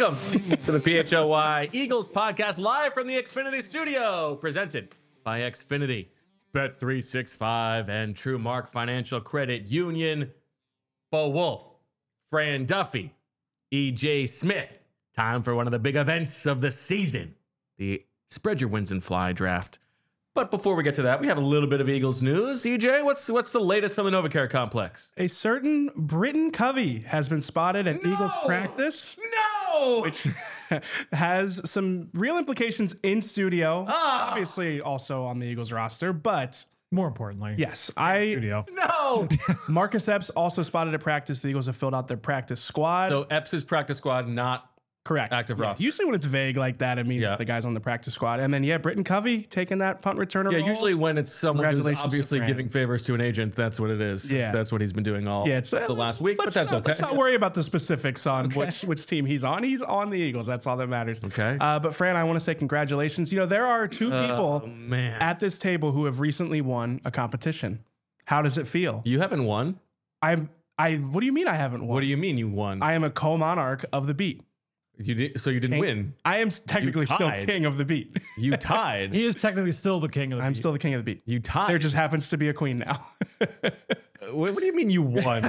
Welcome to the PHLY Eagles podcast live from the Xfinity studio, presented by Xfinity, Bet365, and TrueMark Financial Credit Union. Bo Wolf, Fran Duffy, EJ Smith. Time for one of the big events of the season, the Spread Your Wins and Fly draft. But before we get to that, we have a little bit of Eagles news. EJ, what's the latest from the NovaCare complex? A certain Britton Covey has been spotted at Eagles practice. No! Which has some real implications in studio. Obviously also on the Eagles roster, but more importantly, yes, studio. No! Marcus Epps also spotted at practice. The Eagles have filled out their practice squad. So Epps' practice squad, not correct. Active Yeah. roster. Usually when it's vague like that, it means that the guy's on the practice squad. And then, Britton Covey taking that punt returner role. Usually when it's someone who's Congratulations obviously to Fran. giving favors to an agent, that's what it is. Yeah. That's what he's been doing all It's the last week, but that's okay. Let's not worry about the specifics on which team he's on. He's on the Eagles. That's all that matters. Okay. But Fran, I want to say congratulations. There are two people at this table who have recently won a competition. How does it feel? You haven't won? What do you mean I haven't won? What do you mean you won? I am a co-monarch of the beat. You didn't win. I am technically still king of the beat. You tied. He is technically still the king of the I'm beat. still the king of the beat. You tied. There just happens to be a queen now. What do you mean you won?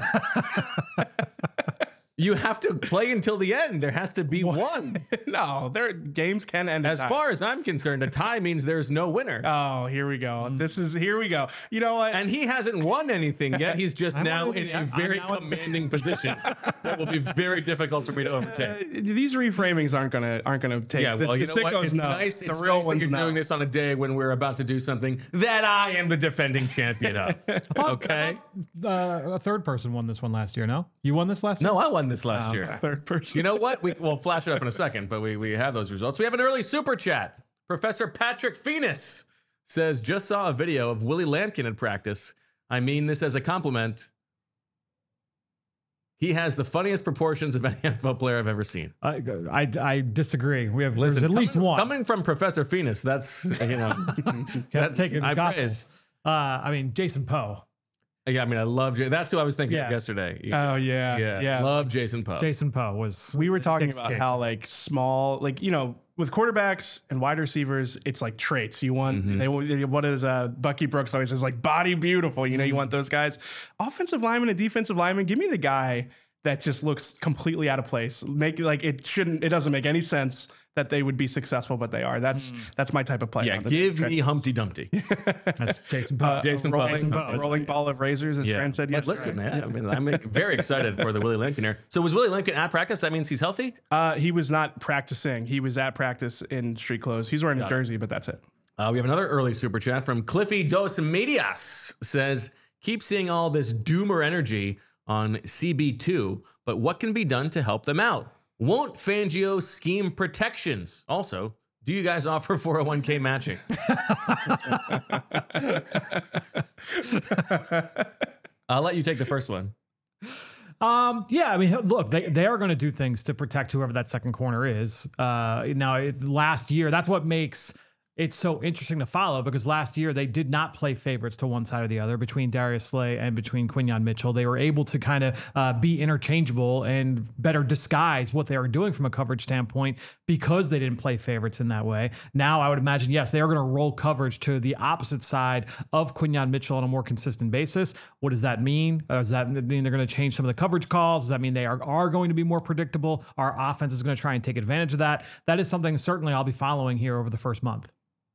You have to play until the end. There has to be one. No, games can end. As far as I'm concerned, a tie means there's no winner. Oh, here we go. Here we go. You know what? And he hasn't won anything yet. He's just now in a very now commanding position that will be very difficult for me to overtake. These reframings aren't gonna take. Yeah, well, you know what? It's nice. The It's real nice that ones you're know. doing this on a day when we're about to do something that I am the defending champion of. Okay? A third person won this one last year. No, you won this last year. No, I won this last year. Third person. You know what? We'll flash it up in a second, but we have those results. We have an early super chat. Professor Patrick Phoenix says, just saw a video of Willie Lampkin in practice. I mean this as a compliment. He has the funniest proportions of any NFL player I've ever seen. I disagree. There's at least one. Coming from Professor Phoenix, that's, that's taking I gospel. praise. Jason Poe. Yeah, I love That's who I was thinking of Yeah. yesterday. Oh yeah. Love Jason Poe. Jason Poe was. We were talking Dick's about kick. how small, with quarterbacks and wide receivers, it's like traits. You want what is Bucky Brooks always says, body beautiful. You want those guys. Offensive lineman and defensive lineman. Give me the guy that just looks completely out of place. It doesn't make any sense that they would be successful, but they are. That's my type of player. Yeah, give me Humpty Dumpty. That's Jason Poe. Jason Poe. rolling ball of razors, as Fran said But yesterday. listen, man, I'm very excited for the Willie Lampkin here. So was Willie Lampkin at practice? That means he's healthy? He was not practicing. He was at practice in street clothes. He's wearing a jersey, but that's it. We have another early super chat from Cliffy Dos Medias. Says, keep seeing all this doomer energy on CB2, but what can be done to help them out? Won't Fangio scheme protections? Also, do you guys offer 401k matching? I'll let you take the first one. Look, they are going to do things to protect whoever that second corner is. Last year, that's what makes it's so interesting to follow, because last year they did not play favorites to one side or the other between Darius Slay and between Quinyon Mitchell. They were able to kind of be interchangeable and better disguise what they were doing from a coverage standpoint because they didn't play favorites in that way. Now I would imagine, yes, they are going to roll coverage to the opposite side of Quinyon Mitchell on a more consistent basis. What does that mean? Does that mean they're going to change some of the coverage calls? Does that mean they are going to be more predictable? Our offense is going to try and take advantage of that. That is something certainly I'll be following here over the first month.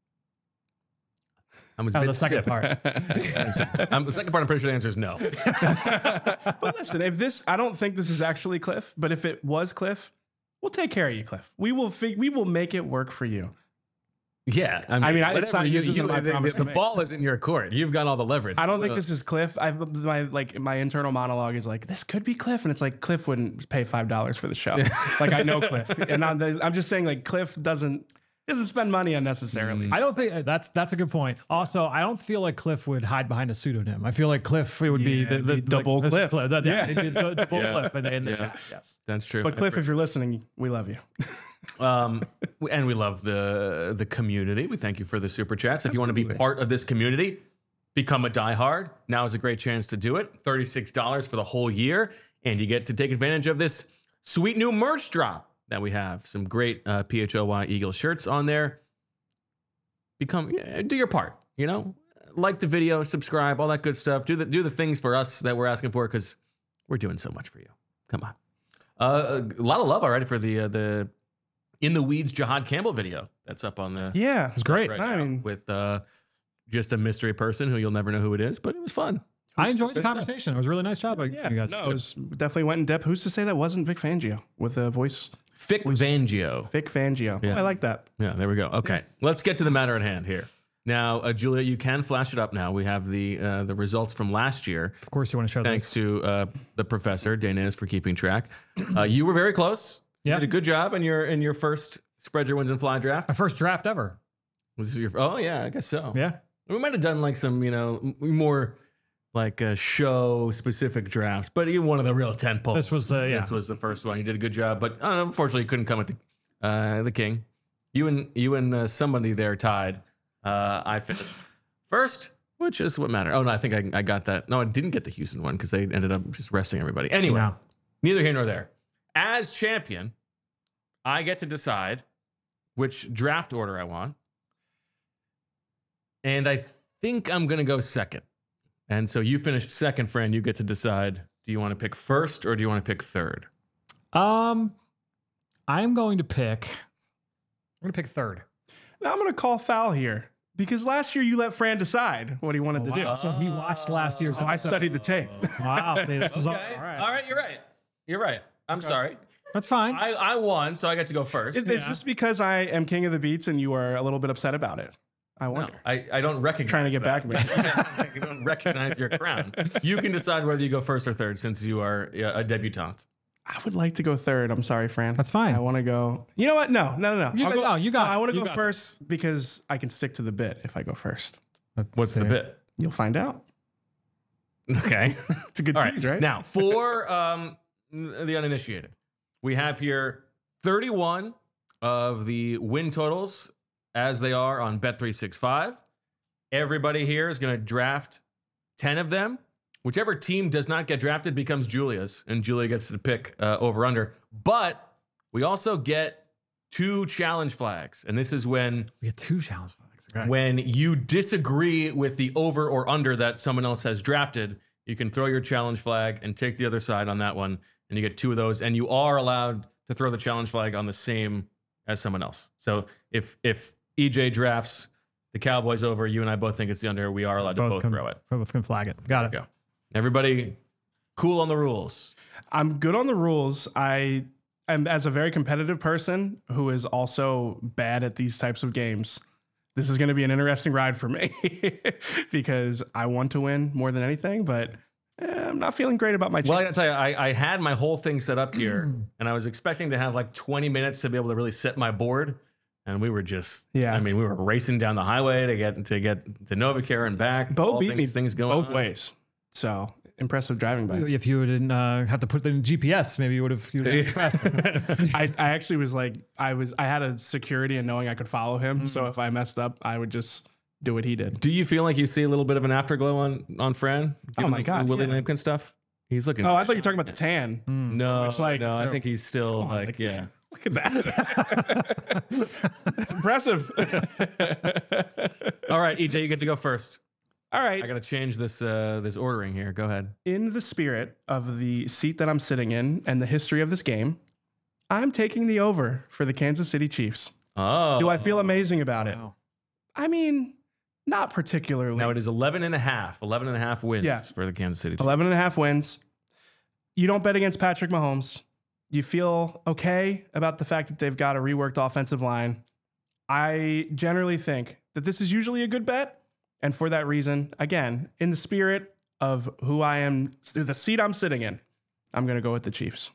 The second part. The second part, I'm pretty sure the answer is no. But listen, I don't think this is actually Cliff, but if it was Cliff, we'll take care of you, Cliff. We will make it work for you. Yeah, it's not, this isn't my promise to the make. ball is in your court. You've got all the leverage. I don't think this is Cliff. My internal monologue is this could be Cliff, and it's Cliff wouldn't pay $5 for the show. I know Cliff, and I'm just saying Cliff doesn't spend money unnecessarily. I don't think that's a good point. Also, I don't feel like Cliff would hide behind a pseudonym. I feel like Cliff would be the double Cliff. Cliff. He'd be the double Cliff in the chat. Yes, that's true. But Cliff, if you're listening, we love you. And we love the community. We thank you for the super chats. If you want to be part of this community, become a diehard. Now is a great chance to do it. $36 for the whole year, and you get to take advantage of this sweet new merch drop. that we have. Some great PHOY Eagles shirts on there. Do your part, like the video, subscribe, all that good stuff. Do the things for us that we're asking for, because we're doing so much for you. Come on. A lot of love already for the In the Weeds Jahad Campbell video that's up on the Yeah, It's great. right I now mean- with just a mystery person who you'll never know who it is, but it was fun. I enjoyed the conversation. It was a really nice job. Yeah, You guys no, did. it was definitely went in depth. Who's to say that wasn't Vic Fangio with a voice? Vic Fangio. Vic Fangio. Yeah. I like that. Yeah, there we go. Okay, let's get to the matter at hand here. Now, Julia, you can flash it up now. We have the results from last year. Of course, you want to show Thanks this. to the professor, Dainez, for keeping track. You were very close. Yeah. You did a good job in your first Spread Your Wins and Fly draft. My first draft ever. Was this your? Oh yeah, I guess so. Yeah. We might have done like some, more like show specific drafts, but even one of the real 10 poles. This was the This was the first one. You did a good job, but unfortunately, you couldn't come with the king. You and somebody there tied. I finished first, which is what mattered. Oh no, I think I got that. No, I didn't get the Houston one because they ended up just resting everybody. Anyway, No. neither here nor there. As champion, I get to decide which draft order I want. And I think I'm going to go second. And so you finished second, Fran. You get to decide, do you want to pick first or do you want to pick third? I'm going to pick third. Now I'm going to call foul here because last year you let Fran decide what he wanted to do. Wow. So he watched last year's Oh, I episode. studied the tape. Wow. See, this is all Okay. right. All right. You're right. I'm sorry. That's fine. I won, so I get to go first. It's just because I am king of the beats and you are a little bit upset about it. I No, wonder. I don't recognize Trying to get that. back at I don't recognize your crown. You can decide whether you go first or third since you are a debutante. I would like to go third. I'm sorry, Fran. That's fine. I want to go. You know what? No. You I'll got- go- no, you got I it. want to You go got first because I can stick to the bit if I go first. What's the bit? You'll find out. Okay. It's a good All right. tease, right? Now, for the uninitiated, we have here 31 of the win totals as they are on Bet365. Everybody here is going to draft 10 of them. Whichever team does not get drafted becomes Julia's, and Julia gets to pick over under. But we also get 2 challenge flags, and this is when We get 2 challenge flags. Okay. when you disagree with the over or under that someone else has drafted, you can throw your challenge flag and take the other side on that one, and you get 2 of those. And you are allowed to throw the challenge flag on the same as someone else. So if EJ drafts the Cowboys over, you and I both think it's the under, we are allowed to both throw it. Both can flag it. Got it. Go. Everybody cool on the rules. I'm good on the rules. I am, as a very competitive person who is also bad at these types of games, this is going to be an interesting ride for me because I want to win more than anything, but I'm not feeling great about my Well, I chances. gotta tell you, I had my whole thing set up here, and I was expecting to have like 20 minutes to be able to really set my board. And we were just, Yeah. I mean, we were racing down the highway to get to Novacare and back. Bo All beat me things going both on. ways. So impressive driving by. If you didn't have to put it in GPS, maybe you would have been faster. I actually was like, I had a security and knowing I could follow him. So if I messed up, I would just do what he did. Do you feel like you see a little bit of an afterglow on Fran? Given my God, the Willie yeah. Lampkin stuff. He's looking. Oh, I thought you were talking about the tan. no, like- no. I think he's still Come on, like, yeah. Look at that. It's impressive. All right, EJ, you get to go first. All right. I got to change this this ordering here. Go ahead. In the spirit of the seat that I'm sitting in and the history of this game, I'm taking the over for the Kansas City Chiefs. Oh, Do I feel amazing about it? Wow. I mean, not particularly. now it is 11 and a half wins Yeah. for the Kansas City Chiefs. 11 and a half wins. You don't bet against Patrick Mahomes. You feel okay about the fact that they've got a reworked offensive line. I generally think that this is usually a good bet. And for that reason, again, in the spirit of who I am, the seat I'm sitting in, I'm going to go with the Chiefs.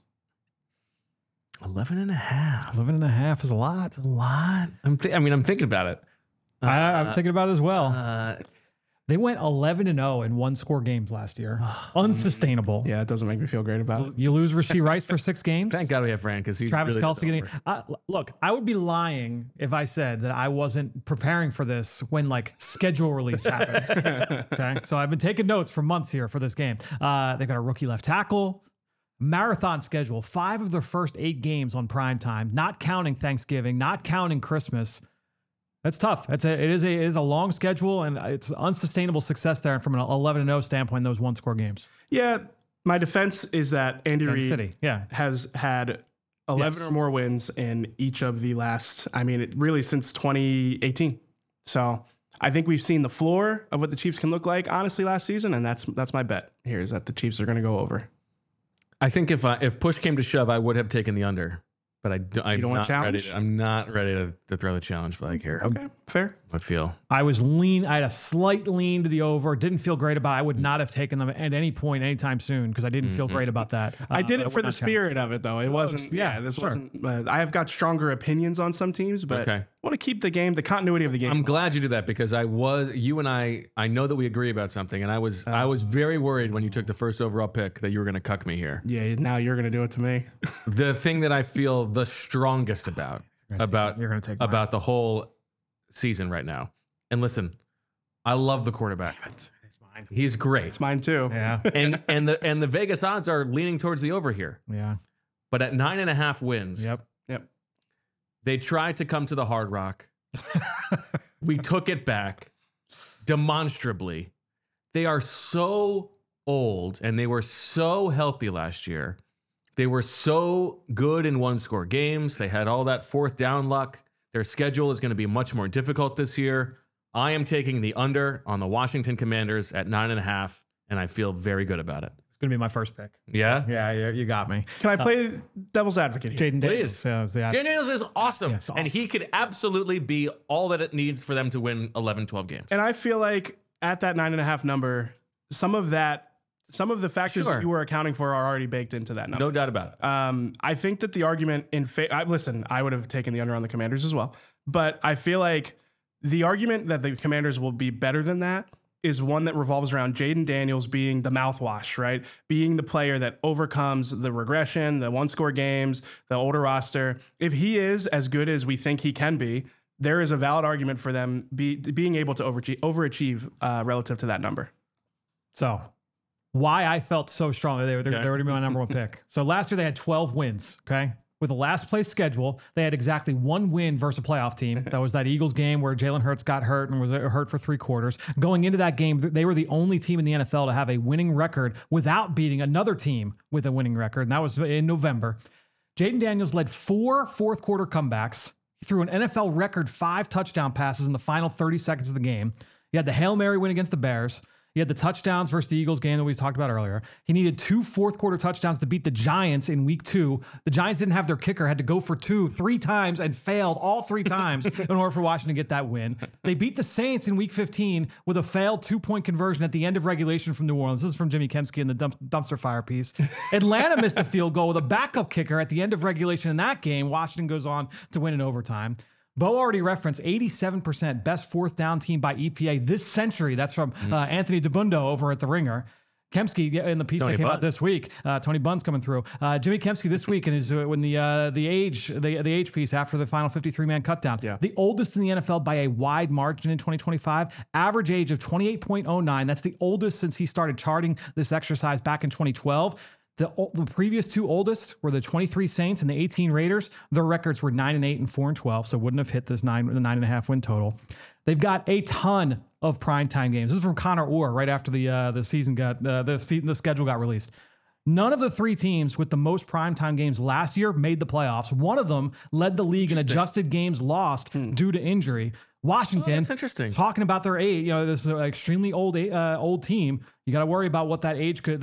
11 and a half. 11 and a half is a lot. A lot. I'm thinking about it. I'm thinking about it as well. They went 11-0 in 1-score games last year. Unsustainable. Yeah, it doesn't make me feel great about it. You lose Rasheed Rice for 6 games. Thank God we have Fran because he's Travis really Kelce getting. Look, I would be lying if I said that I wasn't preparing for this when like schedule release happened. Okay, so I've been taking notes for months here for this game. They've got a rookie left tackle. marathon schedule, 5 of their first 8 games on prime time, not counting Thanksgiving, not counting Christmas. That's tough. It is a long schedule, and it's unsustainable success there from an 11-0 standpoint in those one-score games. Yeah, my defense is that Andy Reid has had 11 or more wins in each of the last, really since 2018. So I think we've seen the floor of what the Chiefs can look like, honestly, last season, and that's my bet here is that the Chiefs are going to go over. I think if push came to shove, I would have taken the under. But I'm not ready. I'm not ready to throw the challenge flag here. Okay, fair. I feel I had a slight lean to the over. Didn't feel great about it. I would not have taken them at any point, anytime soon, because I didn't feel great about that. I did it for the spirit of it, though. It wasn't. This wasn't. I have got stronger opinions on some teams, but I want to keep the continuity of the game. I'm glad you did that because you and I know that we agree about something, and I was very worried when you took the first overall pick that you were going to cuck me here. Yeah, now you're going to do it to me. The thing that I feel the strongest about the whole season right now. And listen, I love the quarterback. It's mine. He's great. It's mine too. Yeah. and the Vegas odds are leaning towards the over here. Yeah. But at 9.5 wins, Yep. They tried to come to the Hard Rock. We took it back demonstrably. They are so old and they were so healthy last year. They were so good in one-score games. They had all that fourth down luck. Their schedule is going to be much more difficult this year. I am taking the under on the Washington Commanders at 9.5, and I feel very good about it. It's going to be my first pick. Yeah? Yeah, you got me. Can I play devil's advocate here? Jaden Daniels. Jaden Daniels is awesome. Yes, awesome. And he could absolutely be all that it needs for them to win 11, 12 games. And I feel like at that 9.5 number, some of the factors that you were accounting for are already baked into that number. No doubt about it. I think that the argument listen, I would have taken the under on the Commanders as well, but I feel like the argument that the Commanders will be better than that is one that revolves around Jaden Daniels being the mouthwash, right? Being the player that overcomes the regression, the one-score games, the older roster. If he is as good as we think he can be, there is a valid argument for them being able to overachieve relative to that number. So why I felt so strong. They already my number one pick. So last year they had 12 wins, okay? With a last place schedule, they had exactly 1 win versus a playoff team. That was that Eagles game where Jalen Hurts got hurt and was hurt for 3 quarters. Going into that game, they were the only team in the NFL to have a winning record without beating another team with a winning record, and that was in November. Jaden Daniels led 4 fourth-quarter comebacks. He threw an NFL record 5 touchdown passes in the final 30 seconds of the game. He had the Hail Mary win against the Bears. He had the touchdowns versus the Eagles game that we talked about earlier. He needed 2 fourth-quarter touchdowns to beat the Giants in week 2. The Giants didn't have their kicker, had to go for 2 3 times and failed all 3 times in order for Washington to get that win. They beat the Saints in week 15 with a failed 2-point conversion at the end of regulation from New Orleans. This is from Jimmy Kempski in the dumpster fire piece. Atlanta missed a field goal with a backup kicker at the end of regulation in that game. Washington goes on to win in overtime. Bo already referenced 87% best fourth down team by EPA this century. That's from Anthony DeBundo over at The Ringer. Kempski in the piece that came out this week. Tony Bunn's coming through. Jimmy Kempski this week and is when the age piece after the final 53-man cutdown. Yeah. The oldest in the NFL by a wide margin in 2025. Average age of 28.09. That's the oldest since he started charting this exercise back in 2012. The previous 2 oldest were the 23 Saints and the 18 Raiders. Their records were 9-8 and 4-12, so wouldn't have hit this 9.5 win total. They've got a ton of primetime games. This is from Connor Orr right after the schedule got released. None of the 3 teams with the most primetime games last year made the playoffs. One of them led the league in adjusted games lost due to injury. Washington, that's interesting. Talking about their age, this is an extremely old team. You got to worry about what that age what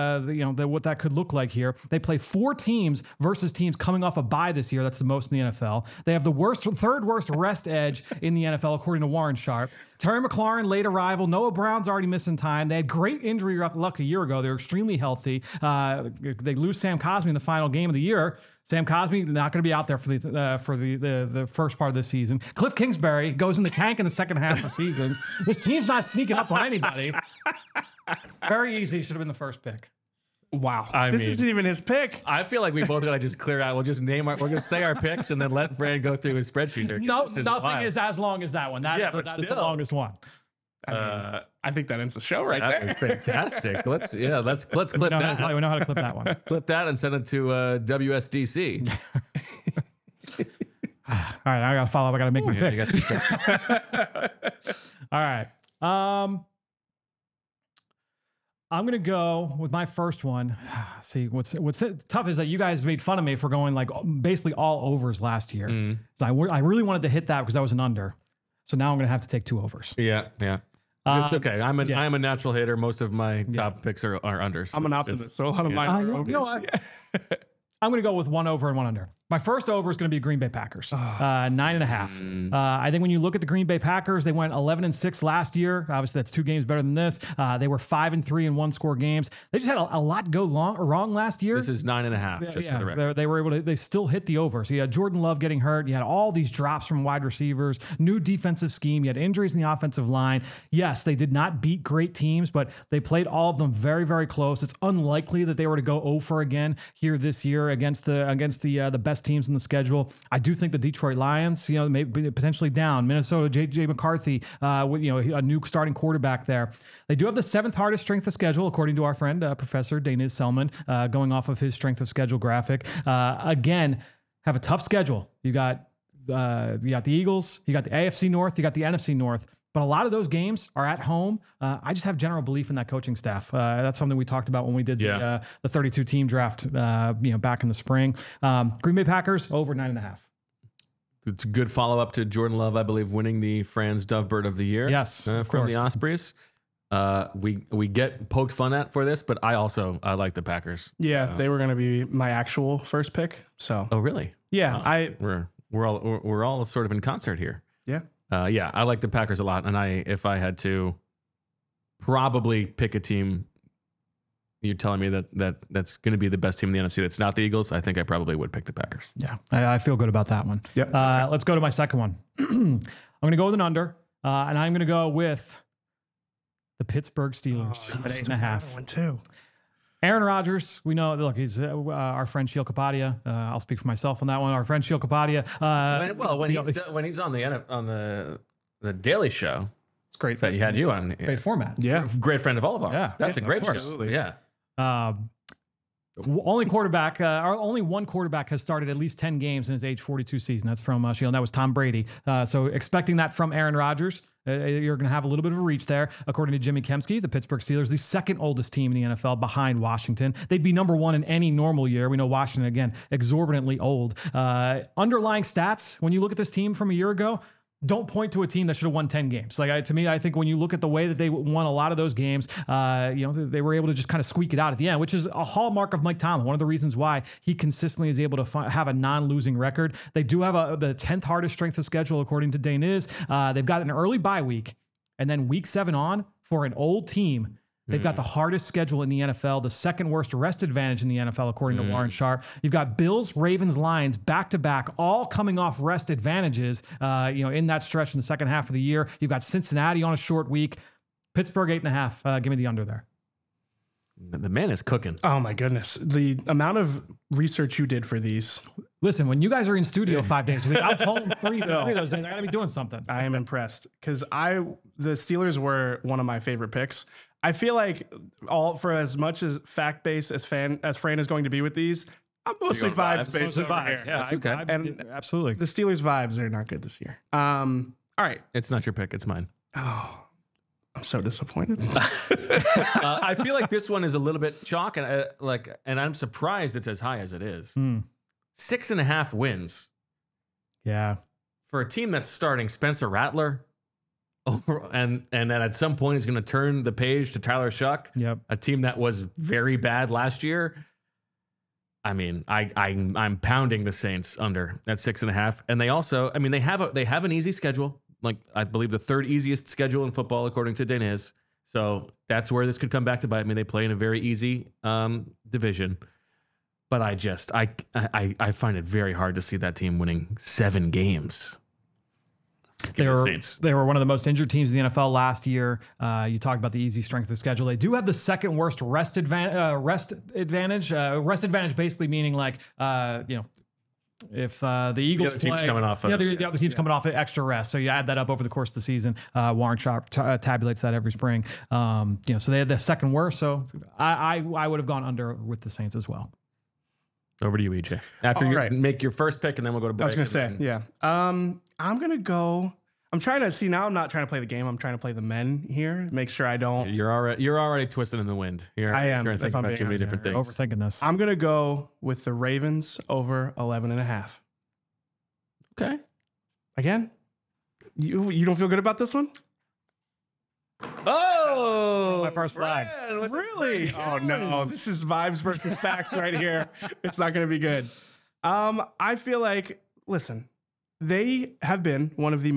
that could look like here. They play 4 teams versus teams coming off a bye this year. That's the most in the NFL. They have the third worst rest edge in the NFL, according to Warren Sharp. Terry McLaurin, late arrival. Noah Brown's already missing time. They had great injury luck a year ago. They're extremely healthy. They lose Sam Cosmi in the final game of the year. Sam Cosmi not going to be out there for the first part of the season. Cliff Kingsbury goes in the tank in the second half of seasons. This team's not sneaking up on anybody. Very easy. Should have been the first pick. Wow. This isn't even his pick. I feel like we both got to just clear out. We'll just we're going to say our picks and then let Fran go through his spreadsheet. No, nothing is as long as that one. That's the longest one. I think that ends the show right That there. was fantastic. Let's clip We know that. how to clip that one. Clip that and send it to WSDC. All right, I gotta follow up. I gotta make my Yeah, pick. you got to pick. All right. I'm gonna go with my first one. See, what's tough is that you guys made fun of me for going like basically all overs last year. So I really wanted to hit that because I was an under. So now I'm gonna have to take 2 overs. Yeah. It's okay. I'm a natural hitter. Most of my top picks are unders. I'm an optimist, so a lot of mine are overs. You know what? I'm going to go with 1 over and 1 under. My first over is going to be Green Bay Packers, 9.5. I think when you look at the Green Bay Packers, they went 11-6 last year. Obviously, that's 2 games better than this. They were 5-3 in 1-score games. They just had a lot go wrong last year. This is 9.5. Just for the record. They were able to. They still hit the over. So you had Jordan Love getting hurt. You had all these drops from wide receivers. New defensive scheme. You had injuries in the offensive line. Yes, they did not beat great teams, but they played all of them very, very close. It's unlikely that they were to go 0 for again here this year against the best teams in the schedule. I do think the Detroit Lions, maybe potentially down. Minnesota, J.J. McCarthy, with a new starting quarterback there. They do have the 7th hardest strength of schedule, according to our friend Professor Daniz Selman, going off of his strength of schedule graphic. Again, have a tough schedule. You got the Eagles, you got the AFC North, you got the NFC North. But a lot of those games are at home. I just have general belief in that coaching staff. That's something we talked about when we did the 32-team draft, back in the spring. Green Bay Packers over 9.5. It's a good follow up to Jordan Love, I believe, winning the Franz Dovebird of the Year. Yes, from the Ospreys. We get poked fun at for this, but I like the Packers. Yeah, they were going to be my actual first pick. So. Oh, really? Yeah, we're all sort of in concert here. Yeah. I like the Packers a lot, and if I had to probably pick a team, you're telling me that's going to be the best team in the NFC that's not the Eagles, I think I probably would pick the Packers. Yeah, I feel good about that one. Yep. Let's go to my second one. I'm going to go with an under, and I'm going to go with the Pittsburgh Steelers at 8.5. One too. Aaron Rodgers, we know. Look, he's our friend Sheil Kapadia. I'll speak for myself on that one. Our friend Sheil Kapadia. When he's on the Daily Show, it's great. That he had you on. Great format. Yeah, great friend of all of ours. Yeah, that's a great show. Absolutely. Yeah. Only one quarterback has started at least 10 games in his age 42 season. That's from Sheil, and that was Tom Brady. So expecting that from Aaron Rodgers, you're going to have a little bit of a reach there. According to Jimmy Kempski, the Pittsburgh Steelers, the 2nd oldest team in the NFL behind Washington. They'd be number 1 in any normal year. We know Washington, again, exorbitantly old. Underlying stats, when you look at this team from a year ago, don't point to a team that should have won 10 games. To me, I think when you look at the way that they won a lot of those games, they were able to just kind of squeak it out at the end, which is a hallmark of Mike Tomlin. One of the reasons why he consistently is able to have a non-losing record. They do have the 10th hardest strength of schedule, according to Daniz. They've got an early bye week, and then week 7 on for an old team. They've got the hardest schedule in the NFL, the 2nd worst rest advantage in the NFL, according to Warren Sharp. You've got Bills, Ravens, Lions back-to-back, all coming off rest advantages, in that stretch in the second half of the year. You've got Cincinnati on a short week. Pittsburgh 8.5. Give me the under there. The man is cooking. Oh my goodness. The amount of research you did for these. Listen, when you guys are in studio 5 days a week, I'm home 3 of those days. I gotta be doing something. I am impressed because the Steelers were one of my favorite picks. I feel like for as much as fact-based as Fran is going to be with these, I'm mostly vibes-based over here. Yeah, that's okay. And absolutely. The Steelers' vibes are not good this year. All right. It's not your pick. It's mine. Oh, I'm so disappointed. I feel like this one is a little bit chalk, and I'm surprised it's as high as it is. 6.5 wins. Yeah. For a team that's starting Spencer Rattler, and then at some point is going to turn the page to Tyler Shuck. Yep. A team that was very bad last year. I mean, I'm pounding the Saints under at 6.5, and they also, they have an easy schedule. Like, I believe the 3rd easiest schedule in football, according to Daniz. So that's where this could come back to bite me. They play in a very easy division. But I find it very hard to see that team winning 7 games. They were one of the most injured teams in the NFL last year. You talked about the easy strength of the schedule. They do have the 2nd worst rest advantage. Rest advantage basically meaning if the Eagles other team's play, coming off the other team's coming off extra rest, so you add that up over the course of the season. Warren Sharp tabulates that every spring. So they had the second worst. So I would have gone under with the Saints as well. Over to you, EJ. After you make your first pick, and then we'll go to break. I was going to say, yeah. I'm going to go. I'm trying to see now. I'm not trying to play the game. I'm trying to play the men here. Make sure I don't. You're already twisting in the wind. I am. Trying to think about too many different things. Overthinking this. I'm going to go with the Ravens over 11.5. Okay. Again, you don't feel good about this one? Oh, my first flag. Really? Oh no, this is vibes versus facts right here. It's not going to be good. I feel like, listen, they have been one of the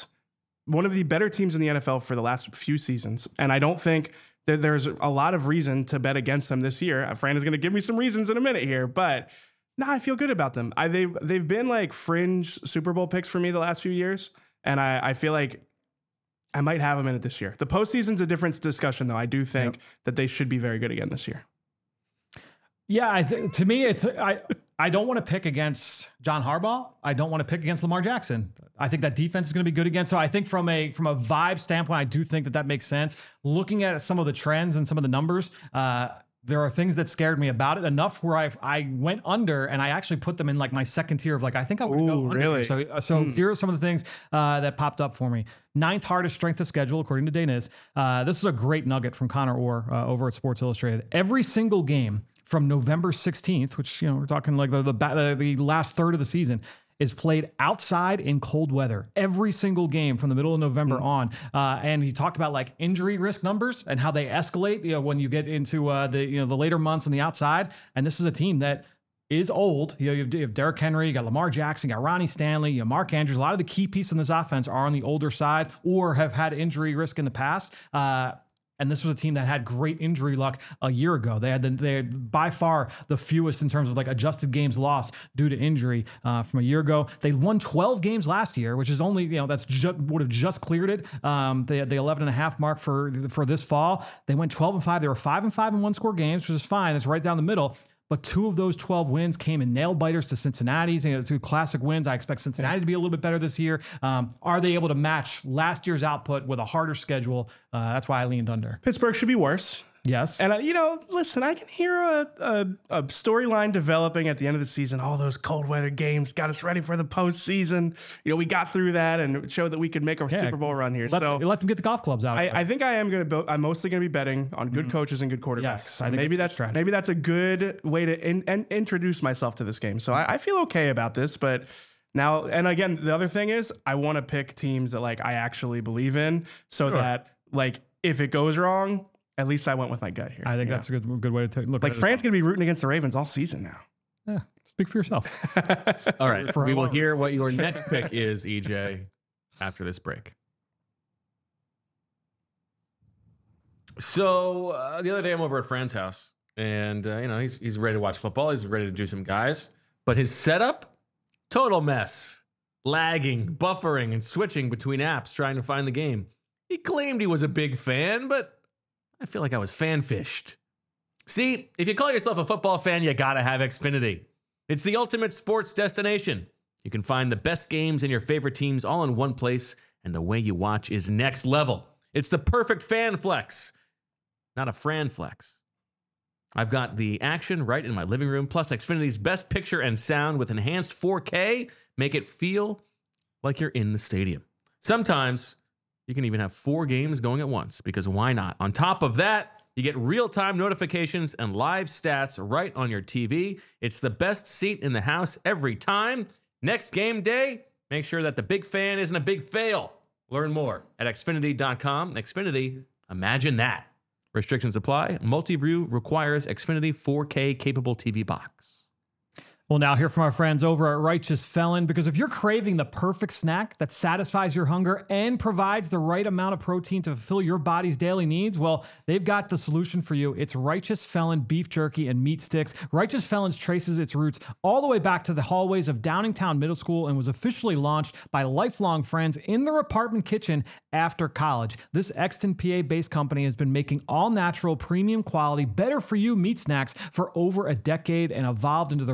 better teams in the NFL for the last few seasons, and I don't think that there's a lot of reason to bet against them this year. Fran is going to give me some reasons in a minute here, but no, I feel good about them. They've been like fringe Super Bowl picks for me the last few years, and I feel like I might have them in it this year. The postseason's a different discussion, though. I do think that they should be very good again this year. Yeah, to me, I don't want to pick against John Harbaugh. I don't want to pick against Lamar Jackson. I think that defense is going to be good again. So I think from a vibe standpoint, I do think that makes sense. Looking at some of the trends and some of the numbers, there are things that scared me about it enough where I went under, and I actually put them in like my second tier of like, I think I would go under. Really? So here are some of the things that popped up for me. 9th hardest strength of schedule, according to Daniz. This is a great nugget from Connor Orr over at Sports Illustrated. Every single game from November 16th, which, we're talking like the last third of the season, is played outside in cold weather. Every single game from the middle of November on. And he talked about like injury risk numbers and how they escalate, when you get into the later months on the outside. And this is a team that is old. You have Derrick Henry, you got Lamar Jackson, you got Ronnie Stanley, you have Mark Andrews. A lot of the key pieces in this offense are on the older side or have had injury risk in the past. And this was a team that had great injury luck a year ago. They had by far the fewest in terms of like adjusted games lost due to injury from a year ago. They won 12 games last year, which is only, that's would have just cleared it. The 11.5 mark for this fall. They went 12-5. They were 5-5 in one-score games, which is fine. It's right down the middle. But 2 of those 12 wins came in nail biters to Cincinnati's. 2 classic wins. I expect Cincinnati to be a little bit better this year. Are they able to match last year's output with a harder schedule? That's why I leaned under. Pittsburgh should be worse. Yes. And, listen, I can hear a storyline developing at the end of the season. All those cold weather games got us ready for the postseason. We got through that and it showed that we could make a Super Bowl run here. Let them get the golf clubs out. I think I'm mostly going to be betting on good coaches and good quarterbacks. Yes, I think maybe that's a good way to introduce myself to this game. So I feel okay about this, but now, and again, the other thing is I want to pick teams that like I actually believe in so that like if it goes wrong, at least I went with my gut here. I think that's a good way to look at it. Like, Fran's going to be rooting against the Ravens all season now. Yeah, speak for yourself. All right. We will hear what your next pick is, EJ, after this break. So the other day I'm over at Fran's house, and he's ready to watch football. He's ready to do some guys. But his setup, total mess. Lagging, buffering, and switching between apps trying to find the game. He claimed he was a big fan, but I feel like I was fan-fished. See, if you call yourself a football fan, you gotta have Xfinity. It's the ultimate sports destination. You can find the best games and your favorite teams all in one place, and the way you watch is next level. It's the perfect fan flex, not a Fran flex. I've got the action right in my living room, plus Xfinity's best picture and sound with enhanced 4K make it feel like you're in the stadium. Sometimes you can even have 4 games going at once, because why not? On top of that, you get real-time notifications and live stats right on your TV. It's the best seat in the house every time. Next game day, make sure that the big fan isn't a big fail. Learn more at Xfinity.com. Xfinity, imagine that. Restrictions apply. Multi-view requires Xfinity 4K capable TV box. We'll now hear from our friends over at Righteous Felon, because if you're craving the perfect snack that satisfies your hunger and provides the right amount of protein to fulfill your body's daily needs, well, they've got the solution for you. It's Righteous Felon beef jerky and meat sticks. Righteous Felon traces its roots all the way back to the hallways of Downingtown Middle School and was officially launched by lifelong friends in their apartment kitchen after college. This Exton, PA-based company has been making all-natural, premium quality, better-for-you meat snacks for over a decade and evolved into the region's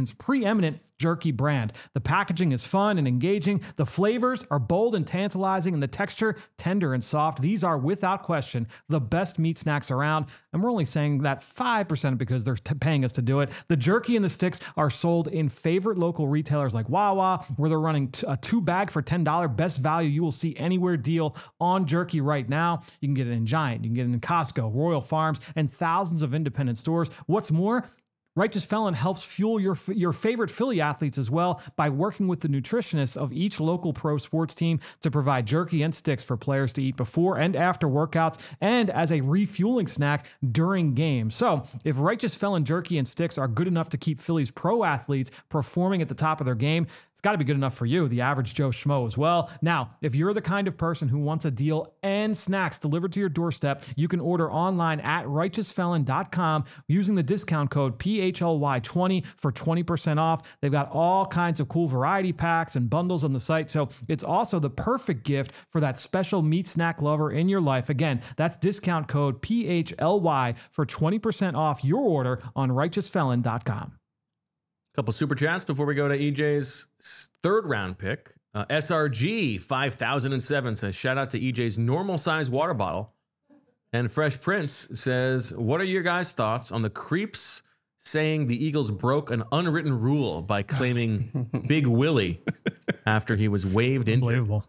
region's preeminent jerky brand. The packaging is fun and engaging. The flavors are bold and tantalizing, and the texture tender and soft. These are, without question, the best meat snacks around. And we're only saying that 5% because they're paying us to do it. The jerky and the sticks are sold in favorite local retailers like Wawa, where they're running a 2-bag for $10. Best value you will see anywhere deal on jerky right now. You can get it in Giant, you can get it in Costco, Royal Farms, and thousands of independent stores. What's more, Righteous Felon helps fuel your favorite Philly athletes as well by working with the nutritionists of each local pro sports team to provide jerky and sticks for players to eat before and after workouts and as a refueling snack during games. So if Righteous Felon jerky and sticks are good enough to keep Philly's pro athletes performing at the top of their game, it's got to be good enough for you, the average Joe Schmo, as well. Now, if you're the kind of person who wants a deal and snacks delivered to your doorstep, you can order online at righteousfelon.com using the discount code PHLY20 for 20% off. They've got all kinds of cool variety packs and bundles on the site, so it's also the perfect gift for that special meat snack lover in your life. Again, that's discount code PHLY for 20% off your order on righteousfelon.com. Couple super chats before we go to EJ's third round pick. SRG 5007 says, shout out to EJ's normal size water bottle. And Fresh Prince says, what are your guys' thoughts on the creeps saying the Eagles broke an unwritten rule by claiming Big Willie after he was waived injured? Unbelievable.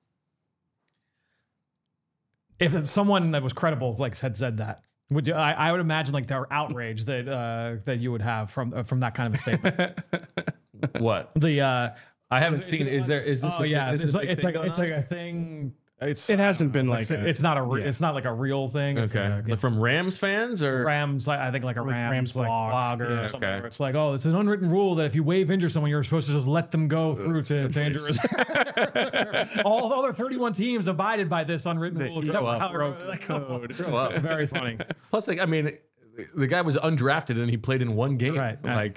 If it's someone that was credible had said that, would you? I would imagine like the outrage that you would have from that kind of a statement. What? I haven't seen. Is this? Oh yeah, it's like a a thing. It hasn't been like it's not like a real thing. It's okay. like From Rams fans or Rams? I think like a Rams blog or yeah, something. okay. Where it's like, oh, it's an unwritten rule that if you wave injure someone, you're supposed to just let them go through to injure. All the other 31 teams abided by this unwritten rule. Grow up. Very funny. Plus, like, I mean, the guy was undrafted and he played in one game. Right. Like,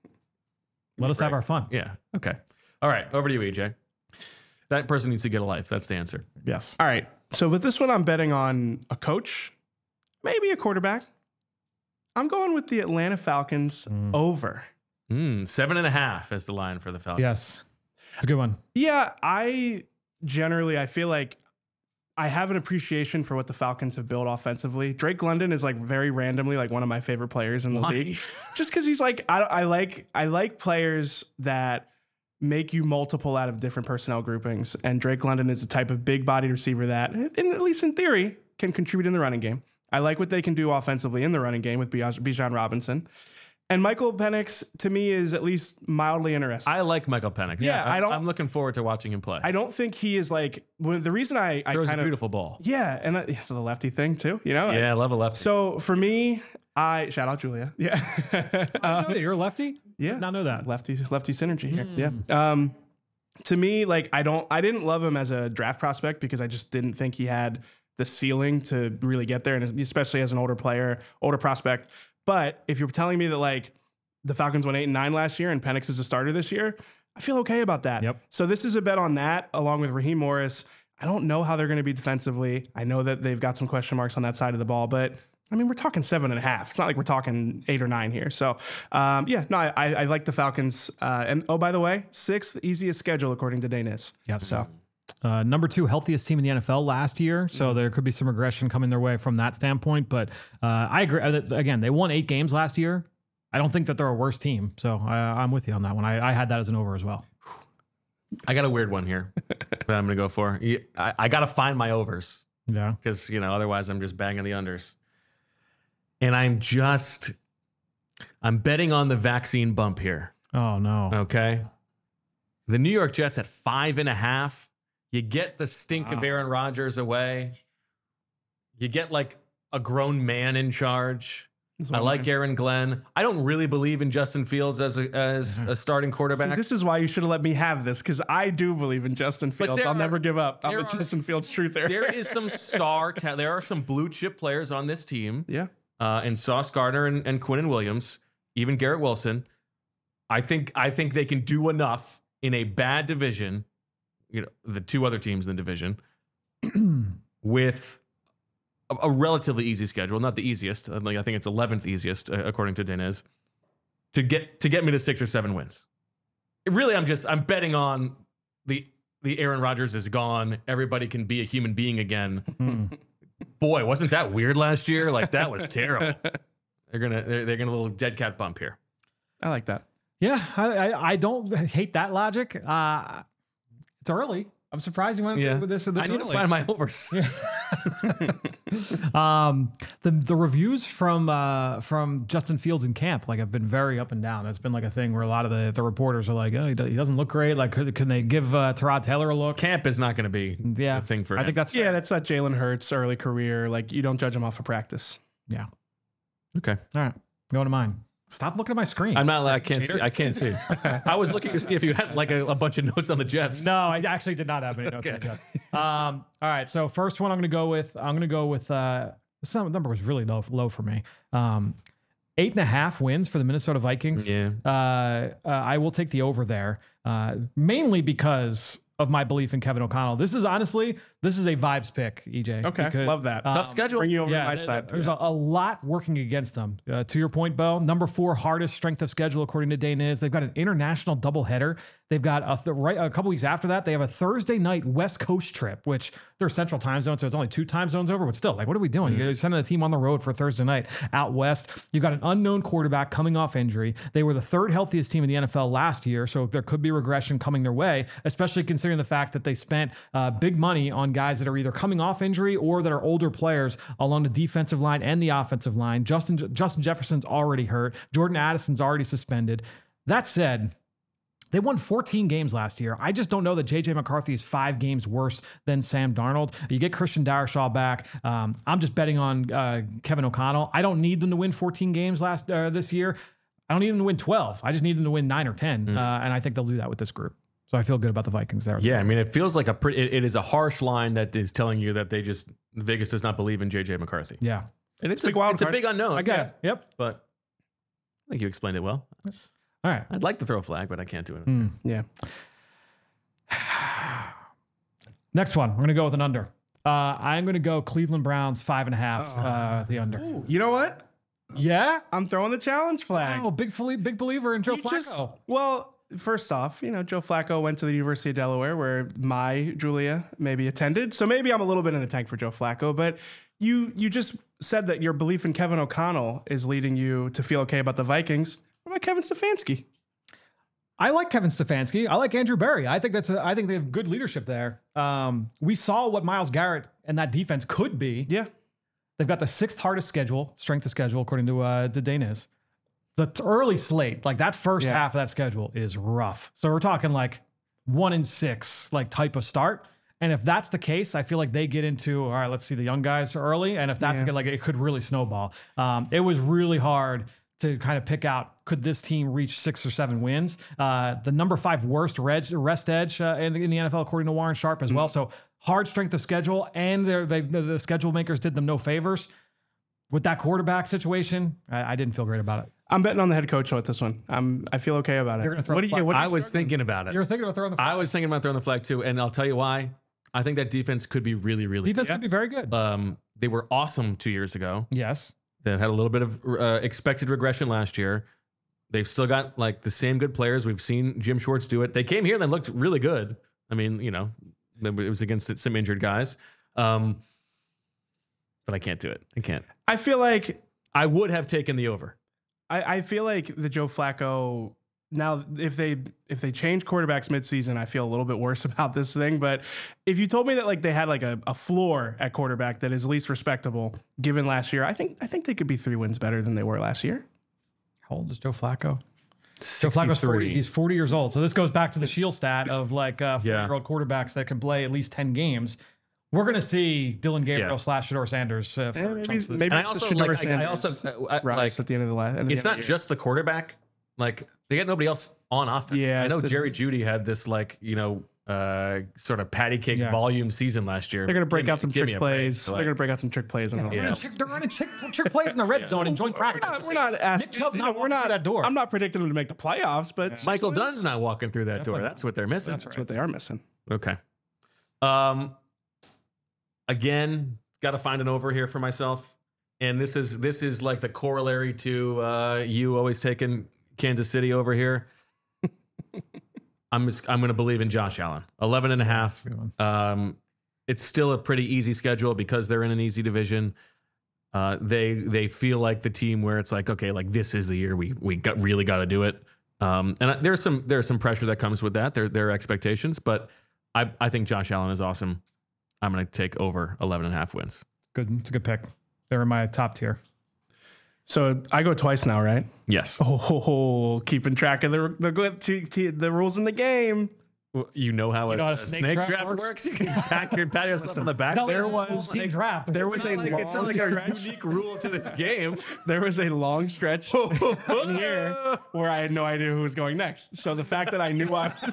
let us have our fun. Yeah. Okay. All right. Over to you, EJ. That person needs to get a life. That's the answer. Yes. All right. So with this one, I'm betting on a coach, maybe a quarterback. I'm going with the Atlanta Falcons over. 7.5 is the line for the Falcons. Yes. It's a good one. Yeah, I feel like I have an appreciation for what the Falcons have built offensively. Drake London is like very randomly like one of my favorite players in the league, just because he's like I like players that make you multiple out of different personnel groupings, and Drake London is the type of big-bodied receiver that, at least in theory, can contribute in the running game. I like what they can do offensively in the running game with Bijan Robinson. And Michael Penix, to me, is at least mildly interesting. I like Michael Penix. Yeah, I'm looking forward to watching him play. I don't think he is like the reason I throws kind a of beautiful ball. Yeah, and the lefty thing too. You know. Yeah, I love a lefty. So for me, I shout out Julia. Yeah. You're a lefty? Yeah. Did not know that. Lefty synergy here. Yeah. To me, like I didn't love him as a draft prospect because I just didn't think he had the ceiling to really get there, and especially as an older prospect. But if you're telling me that like the Falcons went 8-9 last year and Penix is a starter this year, I feel okay about that. Yep. So this is a bet on that, along with Raheem Morris. I don't know how they're going to be defensively. I know that they've got some question marks on that side of the ball, but I mean, we're talking 7.5. It's not like we're talking 8 or 9 here. So, I like the Falcons. And oh, by the way, 6th easiest schedule according to Danis. Yes. So, number 2 healthiest team in the NFL last year. So there could be some regression coming their way from that standpoint. But I agree. Again, they won 8 games last year. I don't think that they're a worse team. So I'm with you on that one. I had that as an over as well. I got a weird one here that I'm going to go for. I got to find my overs. Yeah. Because, otherwise I'm just banging the unders. And I'm betting on the vaccine bump here. Oh, no. Okay. The New York Jets at 5.5. You get the stink of Aaron Rodgers away. You get like a grown man in charge. I like Aaron Glenn. I don't really believe in Justin Fields as a starting quarterback. See, this is why you should have let me have this, because I do believe in Justin Fields. I'll never give up. I'm a Justin Fields truther. There is some there are some blue chip players on this team. Yeah. And Sauce Gardner and Quinnen Williams, even Garrett Wilson. I think they can do enough in a bad division, the 2 other teams in the division, with a relatively easy schedule. Not the easiest. I think it's 11th easiest, according to Denez. to get me to 6 or 7 wins. Really, I'm betting on the Aaron Rodgers is gone. Everybody can be a human being again. Boy, wasn't that weird last year? Like, that was terrible. They're gonna a little dead cat bump here. I like that. Yeah, I don't hate that logic. It's early. I'm surprised you went with this. I need to find my overs. The reviews from Justin Fields in camp have been very up and down. It's been like a thing where a lot of the reporters are like, oh, he doesn't look great. Like, can they give Tyrod Taylor a look? Camp is not going to be a thing for him. I think that's fair. Yeah, that's not Jalen Hurts' early career. Like, you don't judge him off of practice. Yeah. Okay. All right. Going to mine. Stop looking at my screen. I'm not. I can't see. I can't see. I was looking to see if you had like a bunch of notes on the Jets. No, I actually did not have any notes on the Jets. All right. So first one, I'm going to go with. This number was really low for me. 8.5 wins for the Minnesota Vikings. Yeah. I will take the over there, mainly because of my belief in Kevin O'Connell. This is a vibes pick, EJ. Okay, because, love that. Tough schedule. Bring you over to my side. There's a lot working against them. To your point, Bo, number 4 hardest strength of schedule according to Dane is. They've got an international doubleheader. They've got a couple weeks after that, they have a Thursday night West Coast trip, which they're Central Time Zone, so it's only 2 time zones over. But still, like, what are we doing? You're sending a team on the road for Thursday night out west. You've got an unknown quarterback coming off injury. They were the 3rd healthiest team in the NFL last year, so there could be regression coming their way, especially considering the fact that they spent big money on guys that are either coming off injury or that are older players along the defensive line and the offensive line. Justin Jefferson's already hurt. Jordan Addison's already suspended. That said, they won 14 games last year. I just don't know that J.J. McCarthy is 5 games worse than Sam Darnold. You get Christian Darrisaw back. I'm just betting on Kevin O'Connell. I don't need them to win 14 games this year. I don't need them to win 12. I just need them to win 9 or 10. And I think they'll do that with this group. So I feel good about the Vikings there. Yeah, I mean, it feels like it is a harsh line that is telling you that Vegas does not believe in J.J. McCarthy. Yeah. And it's a big unknown. I get it. Yep. But I think you explained it well. All right. I'd like to throw a flag, but I can't do it. Yeah. Next one. We're going to go with an under. I'm going to go Cleveland Browns 5.5, the under. Ooh, you know what? Yeah? I'm throwing the challenge flag. Oh, big believer in Joe Flacco. First off, Joe Flacco went to the University of Delaware where my Julia maybe attended. So maybe I'm a little bit in the tank for Joe Flacco, but you just said that your belief in Kevin O'Connell is leading you to feel okay about the Vikings. What about Kevin Stefanski? I like Kevin Stefanski. I like Andrew Berry. I think I think they have good leadership there. We saw what Myles Garrett and that defense could be. Yeah. They've got the 6th hardest strength of schedule, according to Dane is. The early slate, like that first half of that schedule is rough. So we're talking like 1-6, like type of start. And if that's the case, I feel like they get into, all right, let's see the young guys early. And if that's like, it could really snowball. It was really hard to kind of pick out, could this team reach 6 or 7 wins? The number 5 worst rest edge in the NFL, according to Warren Sharp as well. So hard strength of schedule, and the schedule makers did them no favors. With that quarterback situation, I didn't feel great about it. I'm betting on the head coach with this one. I feel okay about it. You're gonna throw I was thinking about it. You're thinking about throwing the flag? I was thinking about throwing the flag too, and I'll tell you why. I think that defense could be really, really Defense could be very good. They were awesome 2 years ago. Yes. They had a little bit of expected regression last year. They've still got like the same good players. We've seen Jim Schwartz do it. They came here and they looked really good. I mean, it was against some injured guys. But I can't do it. I can't. I feel like I would have taken the over. I feel like the Joe Flacco, now if they change quarterbacks midseason, I feel a little bit worse about this thing. But if you told me that like they had like a floor at quarterback that is least respectable given last year, I think they could be 3 wins better than they were last year. How old is Joe Flacco? 63. Joe Flacco's 40. He's 40 years old. So this goes back to the Shield stat of like 40-year-old quarterbacks that can play at least 10 games. We're going to see Dylan Gabriel / Shedeur Sanders. Maybe I it's also the Shedeur like. Sanders I also rise at the end of the last. It's not just the quarterback. Like they got nobody else on offense. Yeah, I know Jerry Jeudy had this sort of patty cake volume season last year. They're going to break out some trick plays. They're going to break out some trick plays. They're running trick plays in the red zone in joint practice. We're not asking. We're not that door. I'm not predicting them to make the playoffs, but Michael Dunn's not walking through that door. That's what they're missing. That's what they are missing. Okay. Again, got to find an over here for myself, and this is like the corollary to you always taking Kansas City over here. I'm going to believe in Josh Allen. 11.5. It's still a pretty easy schedule because they're in an easy division. They feel like the team where it's like, okay, like this is the year we really got to do it. And there's some pressure that comes with that. There are expectations, but I think Josh Allen is awesome. I'm going to take over 11.5 wins. Good. It's a good pick. They're in my top tier. So I go twice now, right? Yes. Oh, keeping track of the rules in the game. Well, you know how know how a a snake draft works? You can pat yourself on the back. There was snake draft. There was It's not like a unique rule to this game. There was a long stretch in here where I had no idea who was going next. So the fact that I knew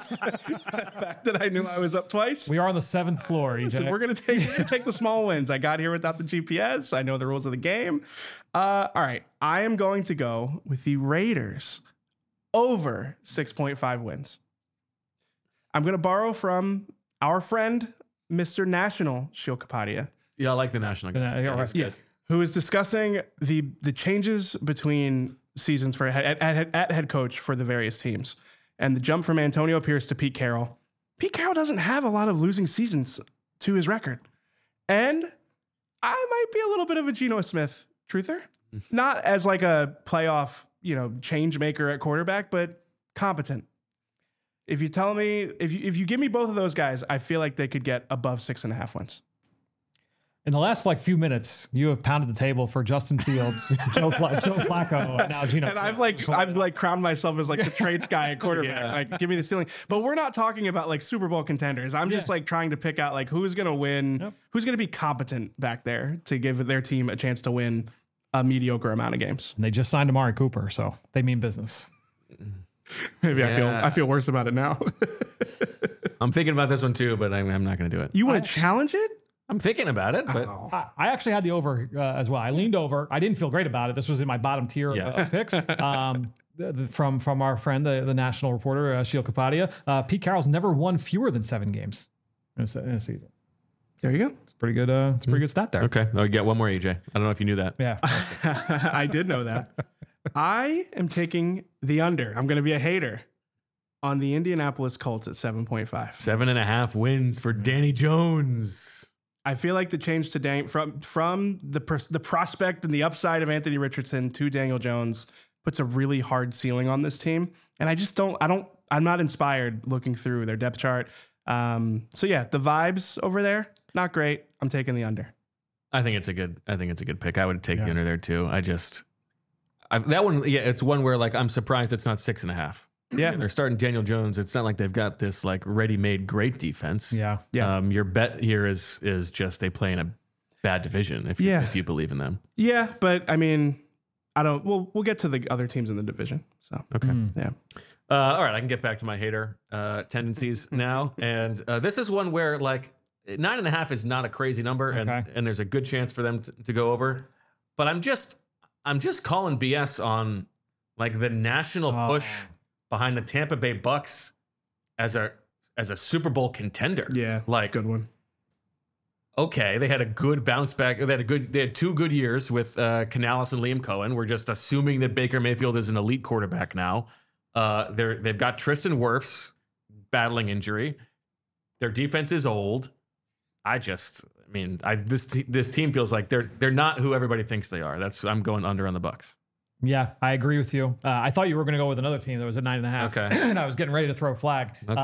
I was up twice. We are on the 7th floor. Listen, we're gonna take the small wins. I got here without the GPS. I know the rules of the game. All right, I am going to go with the Raiders over 6.5 wins. I'm going to borrow from our friend, Mr. National Sheil Kapadia. Yeah, I like the national guy. Yeah, who is discussing the changes between seasons for at head coach for the various teams. And the jump from Antonio Pierce to Pete Carroll. Pete Carroll doesn't have a lot of losing seasons to his record. And I might be a little bit of a Geno Smith truther. Not as like a playoff, change maker at quarterback, but competent. If you tell me, if you give me both of those guys, I feel like they could get above 6.5 wins. In the last few minutes, you have pounded the table for Justin Fields, Joe Flacco, and now Geno. And I've crowned myself as like the traits guy at quarterback. Yeah. Like, give me the ceiling. But we're not talking about like Super Bowl contenders. I'm just like trying to pick out like who's going to win, who's going to be competent back there to give their team a chance to win a mediocre amount of games. And they just signed Amari Cooper, so they mean business. Maybe I feel worse about it now. I'm thinking about this one too, but I'm not going to do it. You want to challenge it? I'm thinking about it, but I actually had the over as well. I leaned over. I didn't feel great about it. This was in my bottom tier of picks. From our friend, the national reporter, Sheil Kapadia. Pete Carroll's never won fewer than 7 games in a season. There you go. It's pretty good. It's a pretty good stat there. okay. I'll get one more, EJ. I don't know if you knew that. Yeah. I did know that. I am taking the under. I'm going to be a hater on the Indianapolis Colts at 7.5. 7.5 wins for Danny Jones. I feel like the change to from the prospect and the upside of Anthony Richardson to Daniel Jones puts a really hard ceiling on this team. And I'm not inspired looking through their depth chart. So yeah, the vibes over there, not great. I'm taking the under. I think it's a good pick. I would take the under there too. That one, it's one where like I'm surprised it's not 6.5. Yeah, they're starting Daniel Jones. It's not like they've got this like ready-made great defense. Yeah. Your bet here is just they play in a bad division if you believe in them. Yeah, but I mean, we'll get to the other teams in the division. So okay, yeah. All right, I can get back to my hater tendencies now, and this is one where like 9.5 is not a crazy number, and there's a good chance for them to go over. But I'm just calling BS on like the national push behind the Tampa Bay Bucks as a Super Bowl contender. Yeah, like good one. Okay, they had a good bounce back. They had 2 good years with Canales and Liam Cohen. We're just assuming that Baker Mayfield is an elite quarterback now. They've got Tristan Wirfs battling injury. Their defense is old. This team feels like they're not who everybody thinks they are. I'm going under on the Bucks. Yeah, I agree with you. I thought you were going to go with another team that was at 9.5. Okay. And I was getting ready to throw a flag. Okay.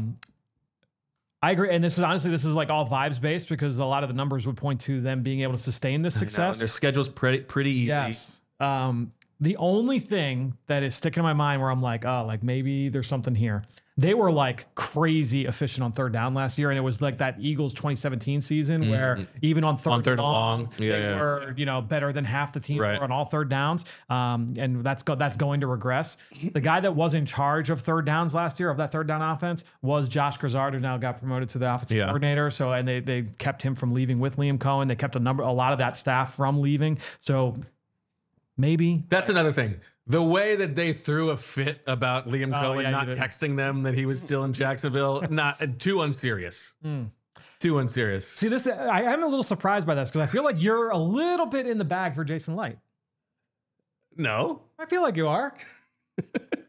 I agree. And this is like all vibes based because a lot of the numbers would point to them being able to sustain this success. Their schedule's pretty easy. Yes. The only thing that is sticking in my mind where I'm like, maybe there's something here. They were like crazy efficient on third down last year. And it was like that Eagles 2017 season where even on third and long, they were, better than half the teams were on all third downs. And that's going to regress. The guy that was in charge of third downs last year of that third down offense was Josh Grisard, who now got promoted to the offensive coordinator. So, and they kept him from leaving with Liam Cohen. They kept a lot of that staff from leaving. So maybe that's another thing. The way that they threw a fit about Liam Cohen not texting them that he was still in Jacksonville, not too unserious. Too unserious. See, I'm a little surprised by this because I feel like you're a little bit in the bag for Jason Light. No, I feel like you are.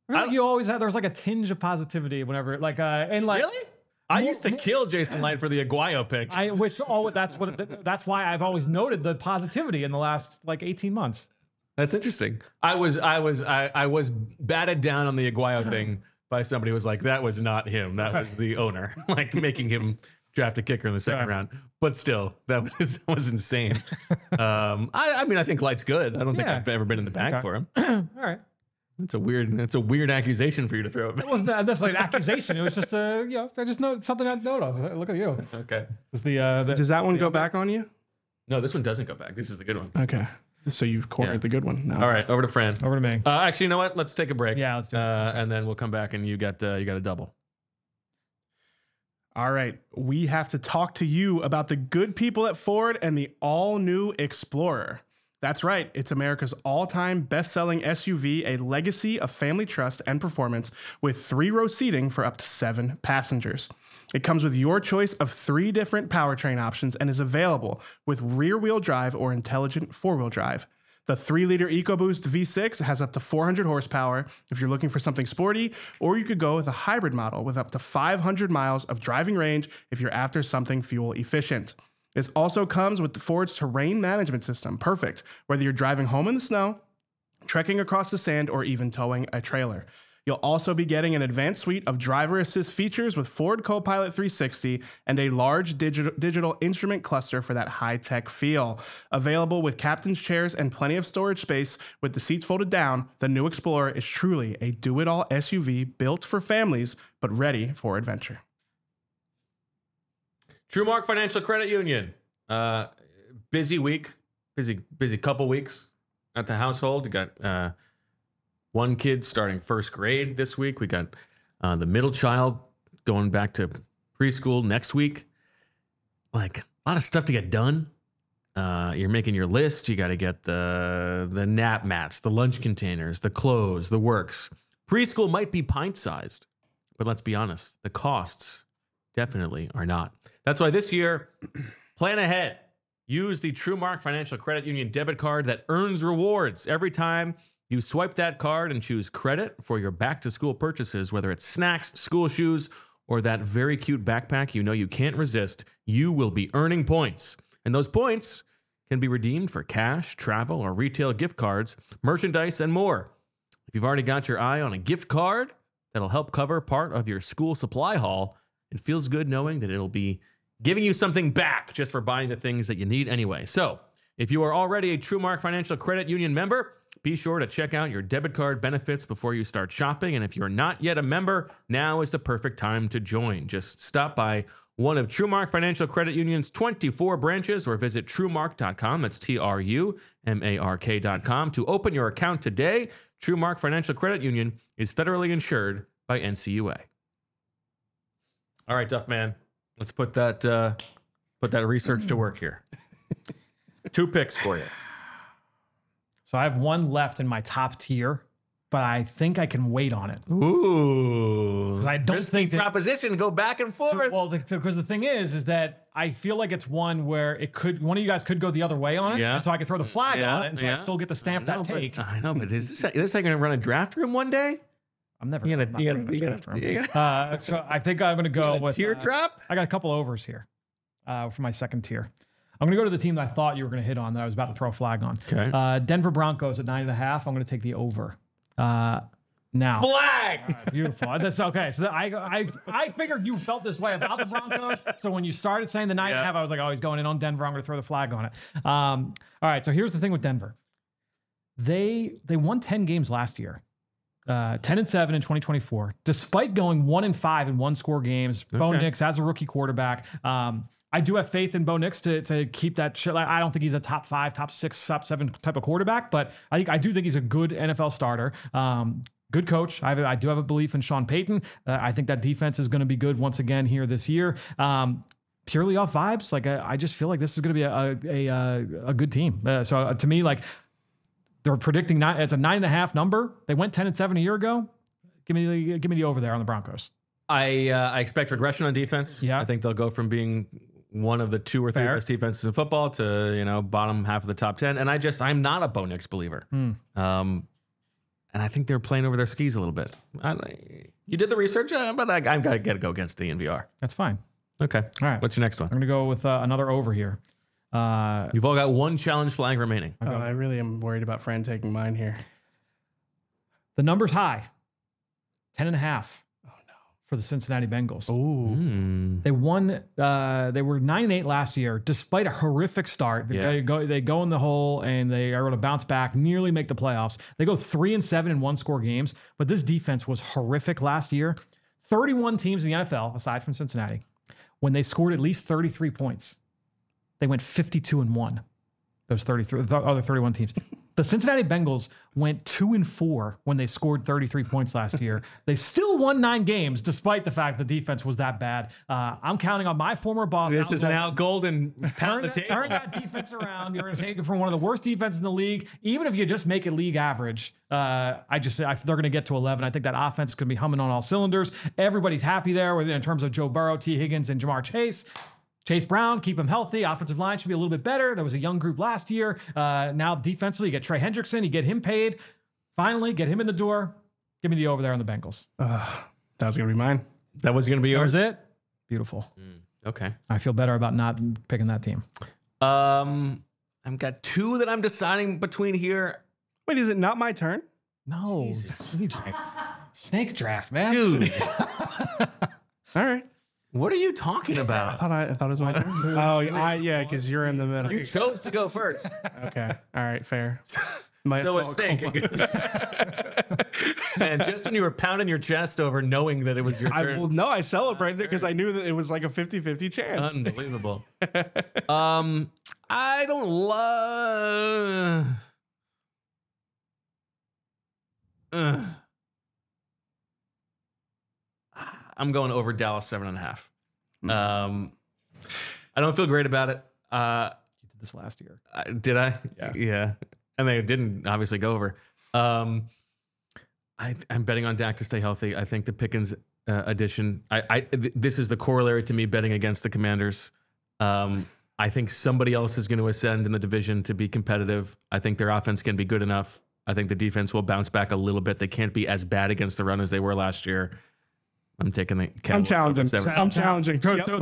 I feel like you always had, there was like a tinge of positivity whenever, like, and like, Really? I used to kill Jason Light for the Aguayo pick. that's why I've always noted the positivity in the last like 18 months. That's interesting. I was batted down on the Aguayo thing by somebody who was like, that was not him. That was the owner, like making him draft a kicker in the second round. But still, that was insane. I mean, I think Light's good. I don't think I've ever been in the bag for him. All right. That's a weird accusation for you to throw. It wasn't necessarily an accusation. It was just I just know something I'd note of. Look at you. Okay. Is Does that one go back on you? No, this one doesn't go back. This is the good one. Okay. So you've cornered the good one now. All right, over to Fran. Over to me. Actually, you know what? Let's take a break. Yeah, let's do it. And then we'll come back and you got a double. All right. We have to talk to you about the good people at Ford and the all-new Explorer. That's right. It's America's all-time best-selling SUV, a legacy of family trust and performance with 3-row seating for up to 7 passengers. It comes with your choice of 3 different powertrain options and is available with rear-wheel drive or intelligent 4-wheel drive. The 3-liter EcoBoost V6 has up to 400 horsepower if you're looking for something sporty, or you could go with a hybrid model with up to 500 miles of driving range if you're after something fuel efficient. This also comes with the Ford's terrain management system, perfect whether you're driving home in the snow, trekking across the sand, or even towing a trailer. You'll also be getting an advanced suite of driver assist features with Ford Copilot 360 and a large digital instrument cluster for that high-tech feel. Available with captain's chairs and plenty of storage space with the seats folded down, the new Explorer is truly a do-it-all SUV built for families, but ready for adventure. TrueMark Financial Credit Union. Busy week, busy couple weeks at the household. You got one kid starting first grade this week. We got the middle child going back to preschool next week. Like a lot of stuff to get done. You're making your list. You got to get the nap mats, the lunch containers, the clothes, the works. Preschool might be pint-sized, but let's be honest, the costs definitely are not. That's why this year, plan ahead. Use the TrueMark Financial Credit Union debit card that earns rewards every time you swipe that card and choose credit for your back-to-school purchases, whether it's snacks, school shoes, or that very cute backpack you know you can't resist. You will be earning points. And those points can be redeemed for cash, travel, or retail gift cards, merchandise, and more. If you've already got your eye on a gift card that'll help cover part of your school supply haul, it feels good knowing that it'll be giving you something back just for buying the things that you need anyway. So if you are already a TrueMark Financial Credit Union member, be sure to check out your debit card benefits before you start shopping. And if you're not yet a member, now is the perfect time to join. Just stop by one of TrueMark Financial Credit Union's 24 branches or visit TrueMark.com. That's TrueMark.com to open your account today. TrueMark Financial Credit Union is federally insured by NCUA. All right, Duff Man. Let's put that research to work here. 2 picks for you. So I have one left in my top tier, but I think I can wait on it. Ooh. I don't think that proposition go back and forth. Because the thing is that I feel like it's one where one of you guys could go the other way on it. Yeah. And so I could throw the flag on it, and so I still get to stamp that take. I know, but is this going to run a draft room one day? I'm never. You So I think I'm going to go with tier drop. I got a couple overs here for my second tier. I'm going to go to the team that I thought you were going to hit on that I was about to throw a flag on. Okay. Denver Broncos at 9.5. I'm going to take the over. Now. Flag. Right, beautiful. That's okay. So I figured you felt this way about the Broncos. So when you started saying the 9.5, I was like, oh, he's going in on Denver. I'm going to throw the flag on it. All right. So here's the thing with Denver. They won 10 games last year. 10-7 in 2024, despite going 1-5 in one-score games. Okay. Bo Nix as a rookie quarterback. I do have faith in Bo Nix to keep that shit. I don't think he's a top 5, top 6, top 7 type of quarterback, but I do think he's a good NFL starter. Good coach. I do have a belief in Sean Payton. I think that defense is going to be good once again here this year. Purely off vibes, I just feel like this is going to be a good team. So to me, they're predicting it's a 9.5 number. They went 10-7 a year ago. Give me the over there on the Broncos. I expect regression on defense. Yeah. I think they'll go from being one of the 2 or 3 best defenses in football to bottom half of the top 10. And I'm not a Bo Nix believer. And and I think they're playing over their skis a little bit. You did the research, but I got to go against DNVR. That's fine. Okay. All right. What's your next one? I'm going to go with another over here. You've all got one challenge flag remaining. Oh, I really am worried about Fran taking mine here. The number's high. 10.5. For the Cincinnati Bengals. Ooh. They won. They were 9-8 last year, despite a horrific start. They go in the hole and they are able to bounce back, nearly make the playoffs. They go 3-7 in one-score games, but this defense was horrific last year. 31 teams in the NFL, aside from Cincinnati, when they scored at least 33 points, they went 52-1. Those 33, the other 31 teams. The Cincinnati Bengals went 2-4 when they scored 33 points last year. They still won 9 games, despite the fact the defense was that bad. I'm counting on my former boss. This is an Al Golden turn that defense around. You're going to take it from one of the worst defenses in the league. Even if you just make it league average, they're going to get to 11. I think that offense is going to be humming on all cylinders. Everybody's happy there in terms of Joe Burrow, T. Higgins, and Jamar Chase. Chase Brown, keep him healthy. Offensive line should be a little bit better. There was a young group last year. Now defensively, you get Trey Hendrickson. You get him paid. Finally, get him in the door. Give me the over there on the Bengals. That was going to be mine. That was going to be yours? That was it? Beautiful. Okay. I feel better about not picking that team. I've got 2 that I'm deciding between here. Wait, is it not my turn? No. Snake draft, man. Dude. All right. What are you talking about? I thought it was my turn. Oh, yeah, because you're in the middle. You chose to go first. Okay. All right. Fair. So it's Snake. And just when you were pounding your chest over knowing that it was your turn. I celebrated it because I knew that it was like a 50-50 chance. Unbelievable. I don't love... I'm going over Dallas 7.5. I don't feel great about it. You did this last year. Did I? Yeah. And they didn't obviously go over. I'm betting on Dak to stay healthy. I think the Pickens addition. This is the corollary to me betting against the Commanders. I think somebody else is going to ascend in the division to be competitive. I think their offense can be good enough. I think the defense will bounce back a little bit. They can't be as bad against the run as they were last year. I'm taking the Cowboys. I'm challenging.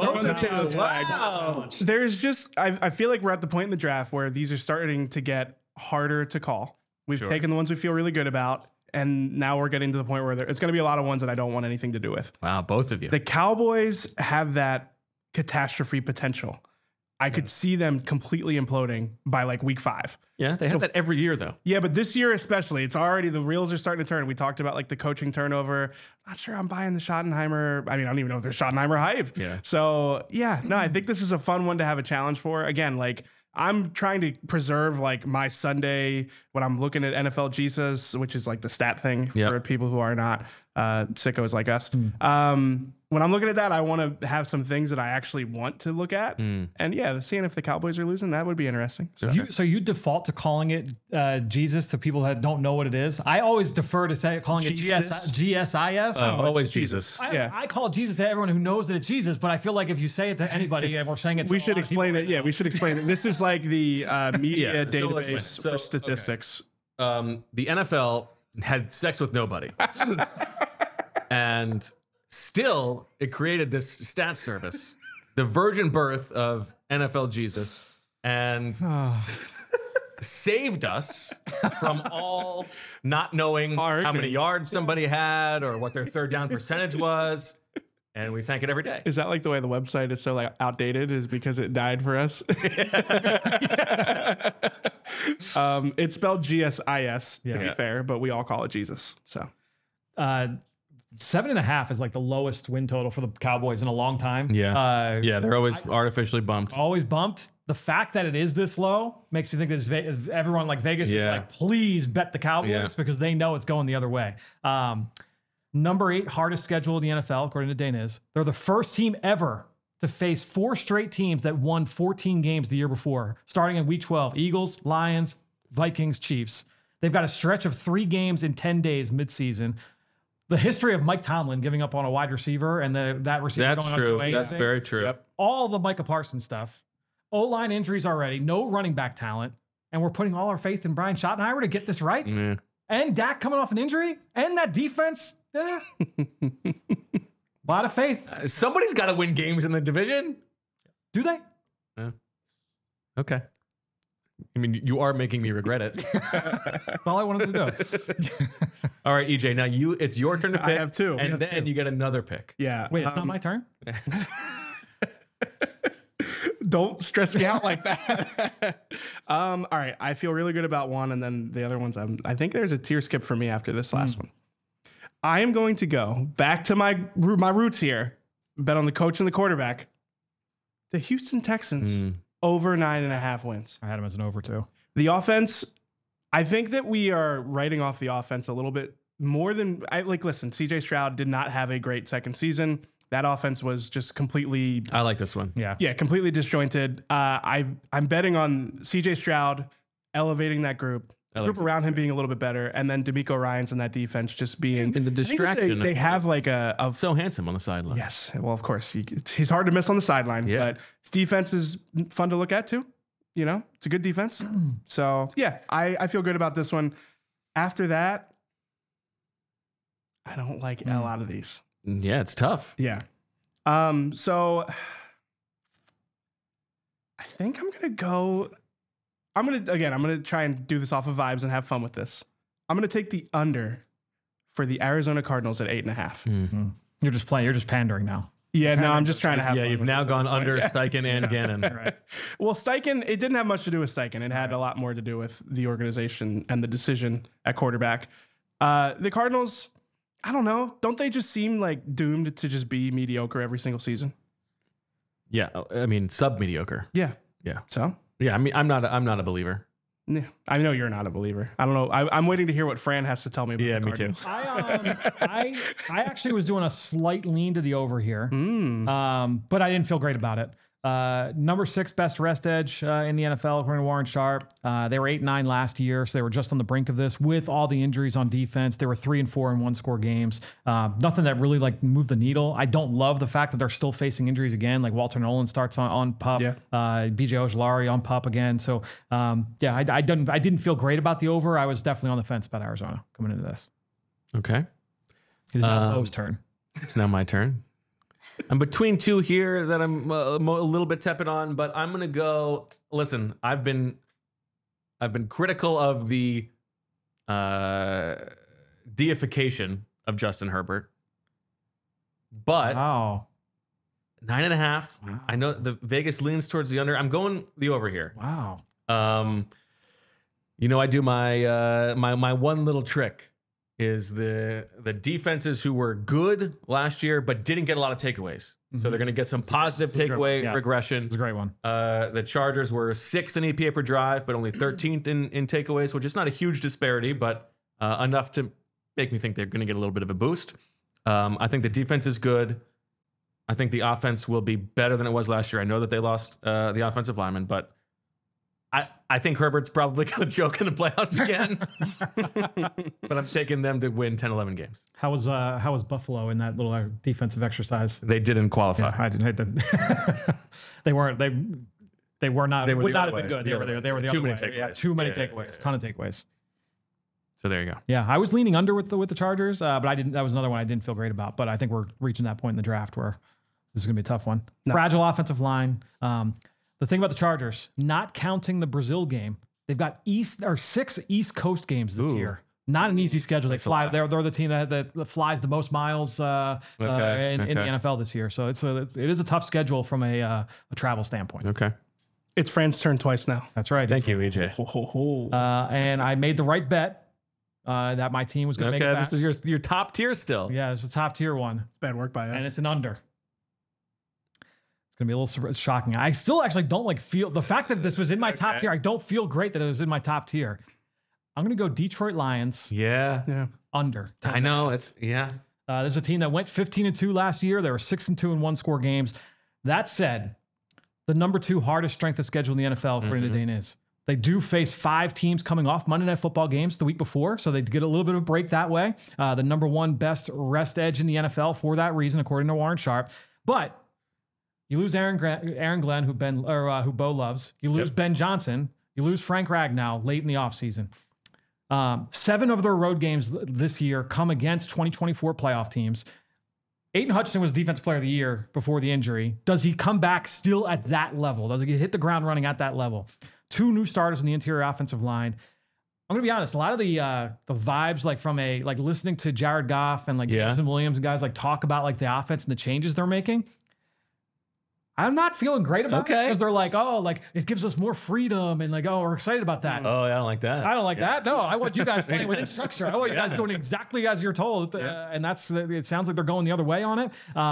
Wow. There's just, I feel like we're at the point in the draft where these are starting to get harder to call. We've taken the ones we feel really good about, and now we're getting to the point where it's going to be a lot of ones that I don't want anything to do with. Wow, both of you. The Cowboys have that catastrophe potential. I could see them completely imploding by like week 5. Yeah, they have that every year though. Yeah, but this year especially, it's already, the reels are starting to turn. We talked about like the coaching turnover. Not sure I'm buying the Schottenheimer. I mean, I don't even know if there's Schottenheimer hype. Yeah. So yeah, no, I think this is a fun one to have a challenge for. Again, like I'm trying to preserve like my Sunday when I'm looking at NFL Jesus, which is like the stat thing for people who are not sickos like us. When I'm looking at that, I want to have some things that I actually want to look at. And yeah, seeing if the Cowboys are losing, that would be interesting. So you default to calling it Jesus to people that don't know what it is? I always defer to calling it GSIS. Always Jesus. I call it Jesus to everyone who knows that it's Jesus, but I feel like if you say it to anybody and we're saying it to we should explain it. Yeah, we should explain it. This is like the media database for statistics. The NFL had sex with nobody. And still, it created this stat service, the virgin birth of NFL Jesus, and saved us from all not knowing how many yards somebody had or what their third down percentage was. And we thank it every day. Is that like the way the website is so like outdated? Is because it died for us? It's spelled GSIS to be fair, but we all call it Jesus. So. 7.5 is like the lowest win total for the Cowboys in a long time. Yeah. They're always artificially bumped. Always bumped. The fact that it is this low makes me think that everyone like Vegas is like, please bet the Cowboys because they know it's going the other way. Number 8 hardest schedule in the NFL, according to Daniz. They're the first team ever to face 4 straight teams that won 14 games the year before, starting in week 12. Eagles, Lions, Vikings, Chiefs. They've got a stretch of 3 games in 10 days midseason. The history of Mike Tomlin giving up on a wide receiver and that receiver going true. That's very true. Yep. All the Micah Parsons stuff. O-line injuries already. No running back talent. And we're putting all our faith in Brian Schottenheimer to get this right. and Dak coming off an injury, and that defense, a lot of faith. Somebody's got to win games in the division. Do they? Okay. I mean, you are making me regret it. That's all I wanted to do. All right, EJ. Now it's your turn to pick. I have two. and then you get another pick. Yeah. Wait, it's not my turn? Don't stress me out like that. All right. I feel really good about one, and then the other ones, I think there's a tier skip for me after this last one. I am going to go back to my roots here. Bet on the coach and the quarterback. The Houston Texans over 9.5 wins. I had him as an over too. The offense, I think that we are writing off the offense a little bit more than listen, CJ Stroud did not have a great second season. That offense was just completely, I like this one. Yeah. completely disjointed. I'm betting on CJ Stroud elevating that group around him being a little bit better, and then DeMeco Ryans and that defense just being And the I think that distraction. They have like a So handsome on the sideline. yes. Well, of course he's hard to miss on the sideline, Yeah. but his defense is fun to look at too. You know, it's a good defense. So yeah, I feel good about this one. After that, I don't like L out of these. Yeah, it's tough. Yeah. So I think I'm gonna try and do this off of vibes and have fun with this. I'm gonna take the under for the Arizona Cardinals at 8.5. You're just playing. You're just pandering now. Yeah, no, I'm just trying to have Yeah, fun you've with now this. gone under Steichen and Gannon. Right. Well, Steichen, it didn't have much to do with Steichen. It had a lot more to do with the organization and the decision at quarterback. The Cardinals, I don't know. Don't they just seem like doomed to just be mediocre every single season? Yeah, I mean, sub-mediocre. Yeah. Yeah. So, Yeah, I mean, I'm not a believer. yeah, I know you're not a believer. I don't know. I'm waiting to hear what Fran has to tell me about Yeah, the me too. Cardinals. I actually was doing a slight lean to the over here, but I didn't feel great about it. Number 6 best rest edge in the NFL, according to Warren Sharp. They were 8-9 last year, so they were just on the brink of this with all the injuries on defense. They were 3-4 in one-score games. Nothing that really like moved the needle. I don't love the fact that they're still facing injuries again. Like Walter Nolan starts on PUP. Yeah. BJ Ojolari on PUP again. So I didn't feel great about the over. I was definitely on the fence about Arizona coming into this. Okay. It is now Bo's turn. It's now my turn. I'm between two here that I'm a little bit tepid on, but I'm gonna go. Listen, I've been critical of the deification of Justin Herbert, but Wow. 9.5. I know the Vegas leans towards the under. I'm going the over here. Wow. You know, I do my my one little trick is the defenses who were good last year but didn't get a lot of takeaways. So they're going to get some positive takeaway Yes. regression. It's a great one. The Chargers were 6th in EPA per drive, but only 13th in takeaways, which is not a huge disparity, but enough to make me think they're going to get a little bit of a boost. I think the defense is good. I think the offense will be better than it was last year. I know that they lost the offensive lineman, but I think Herbert's probably going to choke in the playoffs again. But I'm taking them to win 10, 11 games. How was Buffalo in that little defensive exercise? They didn't qualify. I didn't. They weren't. They were not. They were would the not other have been way. good. They were the Too other many way. takeaways. Yeah, too many Yeah, takeaways. yeah. Ton of takeaways. So there you go. Yeah, I was leaning under with the Chargers, but I didn't. That was another one I didn't feel great about. But I think we're reaching that point in the draft where this is going to be a tough one. Fragile offensive line. The thing about the Chargers, not counting the Brazil game, they've got 6 East Coast games this year. Not an easy schedule. They fly. They're the team that flies the most miles in the NFL this year. So it is a tough schedule from a travel standpoint. Okay. It's Fran's turn twice now. That's right. Thank you, EJ. And I made the right bet that my team was going to make it Okay, back. this is your top tier still. Yeah, it's a top tier one, Bad work by us. and it's an under. It's going to be a little shocking. I still actually don't feel the fact that this was in my top tier. I don't feel great that it was in my top tier. I'm going to go Detroit Lions Yeah. under. 10. I know. Yeah. There's a team that went 15-2 last year. They were 6-2 in one-score games. That said, the number 2 hardest strength of schedule in the NFL, according to Dane, is they do face 5 teams coming off Monday Night Football games the week before, so they get a little bit of a break that way. The number 1 best rest edge in the NFL for that reason, according to Warren Sharp. But you lose Aaron Glenn, who Bo loves. You lose Ben Johnson. You lose Frank Ragnow late in the offseason. 7 of their road games this year come against 2024 playoff teams. Aiden Hutchinson was Defensive Player of the Year before the injury. Does he come back still at that level? Does he hit the ground running at that level? 2 new starters in the interior offensive line. I'm gonna be honest. A lot of the vibes, like from listening to Jared Goff and Jameson Williams and guys talk about the offense and the changes they're making. I'm not feeling great about it because they're it gives us more freedom and we're excited about that. Oh, I don't like that. I don't like that. No, I want you guys playing within structure. I want you guys doing exactly as you're told. And it sounds like they're going the other way on it.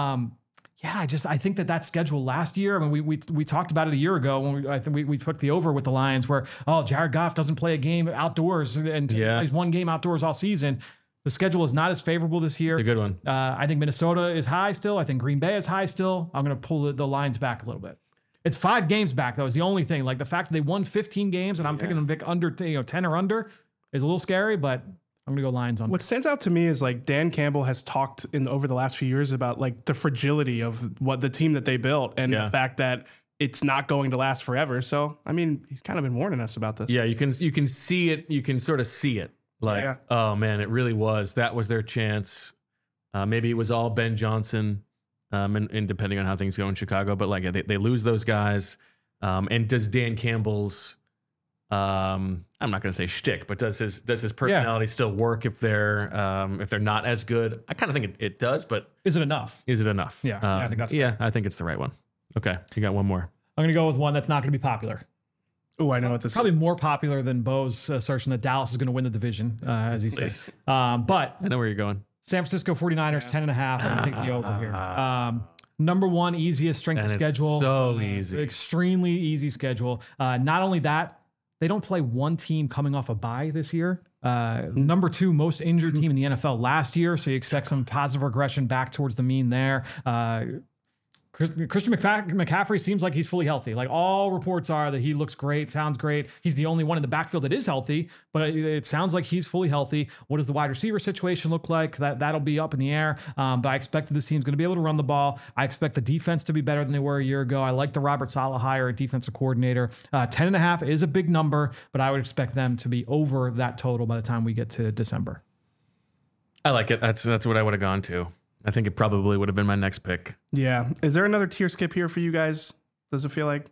I think that schedule last year, I mean, we talked about it a year ago when I think we took the over with the Lions where, Jared Goff doesn't play a game outdoors and plays one game outdoors all season. The schedule is not as favorable this year. It's a good one. I think Minnesota is high still. I think Green Bay is high still. I'm going to pull the lines back a little bit. It's 5 games back, though, is the only thing. The fact that they won 15 games and I'm picking them pick under 10 or under is a little scary, but I'm going to go Lions on. What stands out to me is Dan Campbell has talked over the last few years about the fragility of what the team that they built and the fact that it's not going to last forever. So, I mean, he's kind of been warning us about this. Yeah, you can see it. You can sort of see it. Oh man, it really was. That was their chance. Maybe it was all Ben Johnson, and depending on how things go in Chicago. But they lose those guys. And does Dan Campbell's, I'm not going to say shtick, but does his personality still work if they're not as good? I kind of think it does, but is it enough? Is it enough? Yeah, I think that's I think it's the right one. Okay, you got one more. I'm going to go with one that's not going to be popular. Oh, I know what this probably is. more popular than Bo's assertion that Dallas is going to win the division, as he says. But I know where you're going. San Francisco 49ers, 10.5. I'm going to take the over here. Number 1, easiest strength of schedule. So easy. Extremely easy schedule. Not only that, they don't play one team coming off a bye this year. Number 2 most injured team in the NFL last year. So you expect some positive regression back towards the mean there. Christian McCaffrey seems like he's fully healthy. All reports are that he looks great, sounds great. He's the only one in the backfield that is healthy, but it sounds like he's fully healthy. What does the wide receiver situation look like? That'll be up in the air. But I expect that this team's going to be able to run the ball. I expect the defense to be better than they were a year ago. I like the Robert Saleh hire at defensive coordinator. 10.5 is a big number, but I would expect them to be over that total by the time we get to December. I like it. That's what I would have gone to. I think it probably would have been my next pick. Yeah. Is there another tier skip here for you guys? Does it feel like?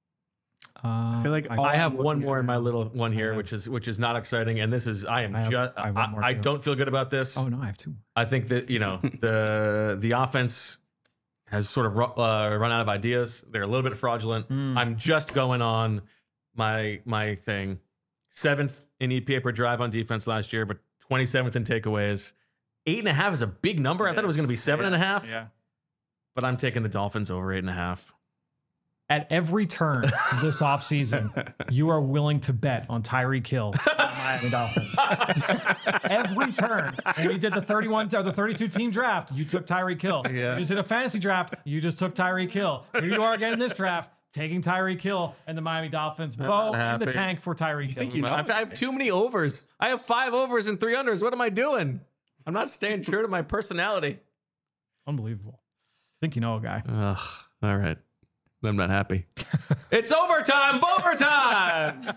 I feel like I have one more in my little one here, which is not exciting. And this is I don't feel good about this. Oh no, I have 2. I think that the offense has sort of run out of ideas. They're a little bit fraudulent. I'm just going on my thing. 7th in EPA per drive on defense last year, but 27th in takeaways. 8.5 is a big number. I thought it was going to be 7.5. Yeah. But I'm taking the Dolphins over 8.5. At every turn this offseason, you are willing to bet on Tyreek Hill, Miami Dolphins. Every turn. When you did the 31 or the 32 team draft, you took Tyreek Hill. Yeah. You did a fantasy draft, you just took Tyreek Hill. Here you are again in this draft, taking Tyreek Hill and the Miami Dolphins. Bo in the tank for Tyreek Hill. I have too many overs. I have 5 overs and 3 unders. What am I doing? I'm not staying true to my personality. Unbelievable. I think you know a guy. All right. I'm not happy. It's overtime, overtime.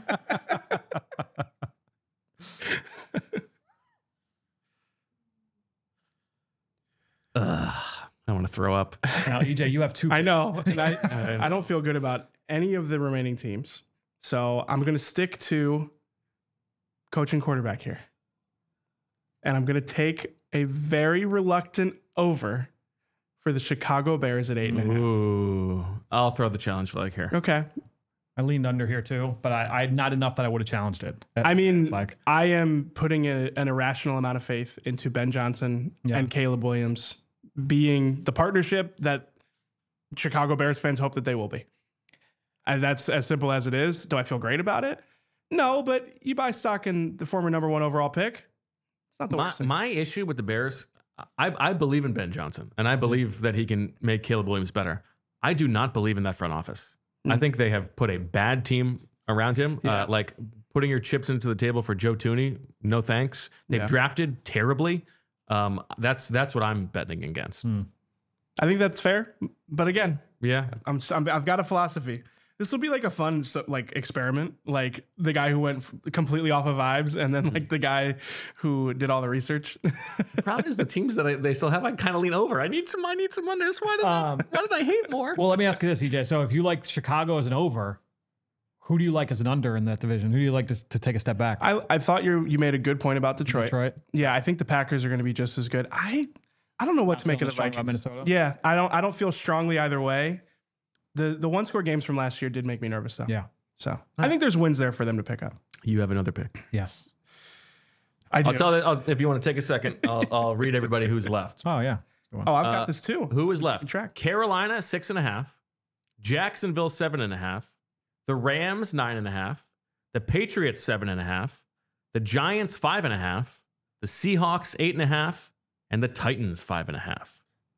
I want to throw up. Now, EJ, you have 2 picks. I know. And I don't feel good about any of the remaining teams. So I'm going to stick to coach and quarterback here. And I'm going to take a very reluctant over for the Chicago Bears at 8.5. Ooh. I'll throw the challenge flag here. Okay. I leaned under here too, but I not enough that I would have challenged it. I mean, I am putting an irrational amount of faith into Ben Johnson and Caleb Williams being the partnership that Chicago Bears fans hope that they will be. And that's as simple as it is. Do I feel great about it? No, but you buy stock in the former number 1 overall pick. It's not the worst thing. My issue with the Bears, I believe in Ben Johnson, and I believe that he can make Caleb Williams better. I do not believe in that front office. I think they have put a bad team around him. Like putting your chips into the table for Joe Thuney, no thanks. They've drafted terribly. That's what I'm betting against. I think that's fair, but again, yeah, I've got a philosophy. This will be like a fun like experiment, like the guy who went completely off of vibes, and then like the guy who did all the research. The problem is the teams that they still have, I kind of lean over. I need some unders. Why did I hate more? Well, let me ask you this, EJ. So if you like Chicago as an over, who do you like as an under in that division? Who do you like to take a step back? I thought you made a good point about Detroit. Yeah, I think the Packers are going to be just as good. I don't know what to make of the Vikings. Minnesota. Yeah, I don't feel strongly either way. The one score games from last year did make me nervous though. Yeah. So I think there's wins there for them to pick up. You have another pick. Yes. I do. If you want to take a second, I'll read everybody who's left. Oh yeah. Oh, I've got this too. Who is left? Track. Carolina 6.5, Jacksonville 7.5, the Rams 9.5, the Patriots 7.5, the Giants 5.5, the Seahawks 8.5, and the Titans 5.5.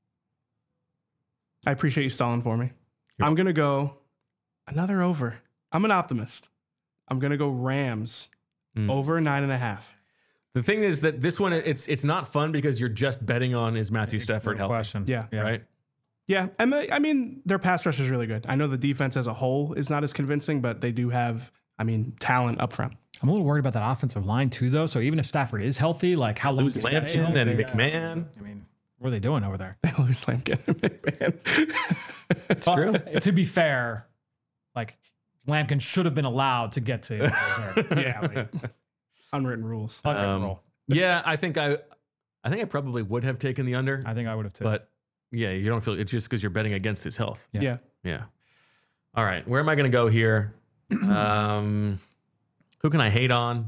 I appreciate you stalling for me. I'm going to go another over. I'm an optimist. I'm going to go Rams over 9.5. The thing is that this one, it's not fun because you're just betting on is Matthew Stafford healthy. Question. Yeah. Right? Yeah. And I mean, their pass rush is really good. I know the defense as a whole is not as convincing, but they do have, talent up front. I'm a little worried about that offensive line too, though. So even if Stafford is healthy, like how long Lose Lampkin and McMahon. I mean, what are they doing over there? They lose Lampkin and McMahon. It's true. To be fair, like Lampkin should have been allowed to get to. Yeah. Like, unwritten rules. Yeah, I think I probably would have taken the under. I think I would have too. But yeah, you don't feel it's just because you're betting against his health. Yeah. All right, where am I going to go here? Who can I hate on?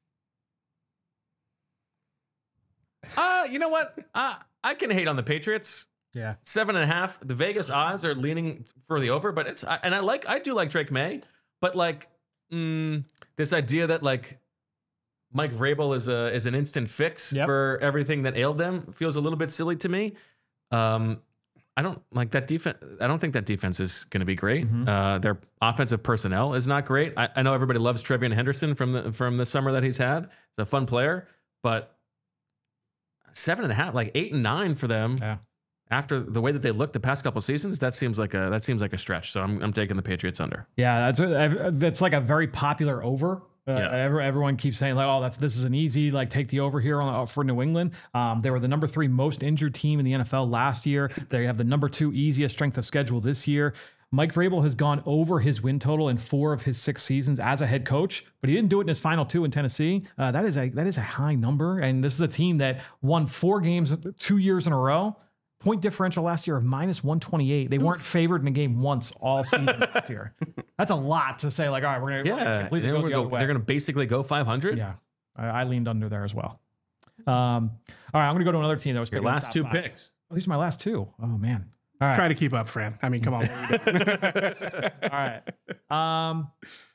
You know what? I can hate on the Patriots. Yeah. 7.5. The Vegas odds are leaning for the over, but I do like Drake May, but like this idea that like Mike Vrabel is an instant fix for everything that ailed them feels a little bit silly to me. I don't like that defense. I don't think that defense is going to be great. Their offensive personnel is not great. I know everybody loves Trevion Henderson from the summer that he's had. He's a fun player, but 7.5, like 8 and 9 for them. Yeah. After the way that they looked the past couple of seasons, that seems like a stretch. So I'm taking the Patriots under. Yeah, that's like a very popular over. Everyone keeps saying like, "Oh, this is an easy like take the over here for New England." They were the number 3 most injured team in the NFL last year. They have the number 2 easiest strength of schedule this year. Mike Vrabel has gone over his win total in 4 of his 6 seasons as a head coach, but he didn't do it in his final 2 in Tennessee. That is a high number, and this is a team that won 4 games 2 years in a row. Point differential last year of -128. They weren't favored in a game once all season last year. That's a lot to say. Like, all right, we're gonna completely go the other way. They're gonna basically go 500. Yeah, I leaned under there as well. All right, I'm gonna go to another team that was your last 2 picks. Oh, these are my last 2. Oh man. All right. Try to keep up, Fran. I mean, come on. All right. I'm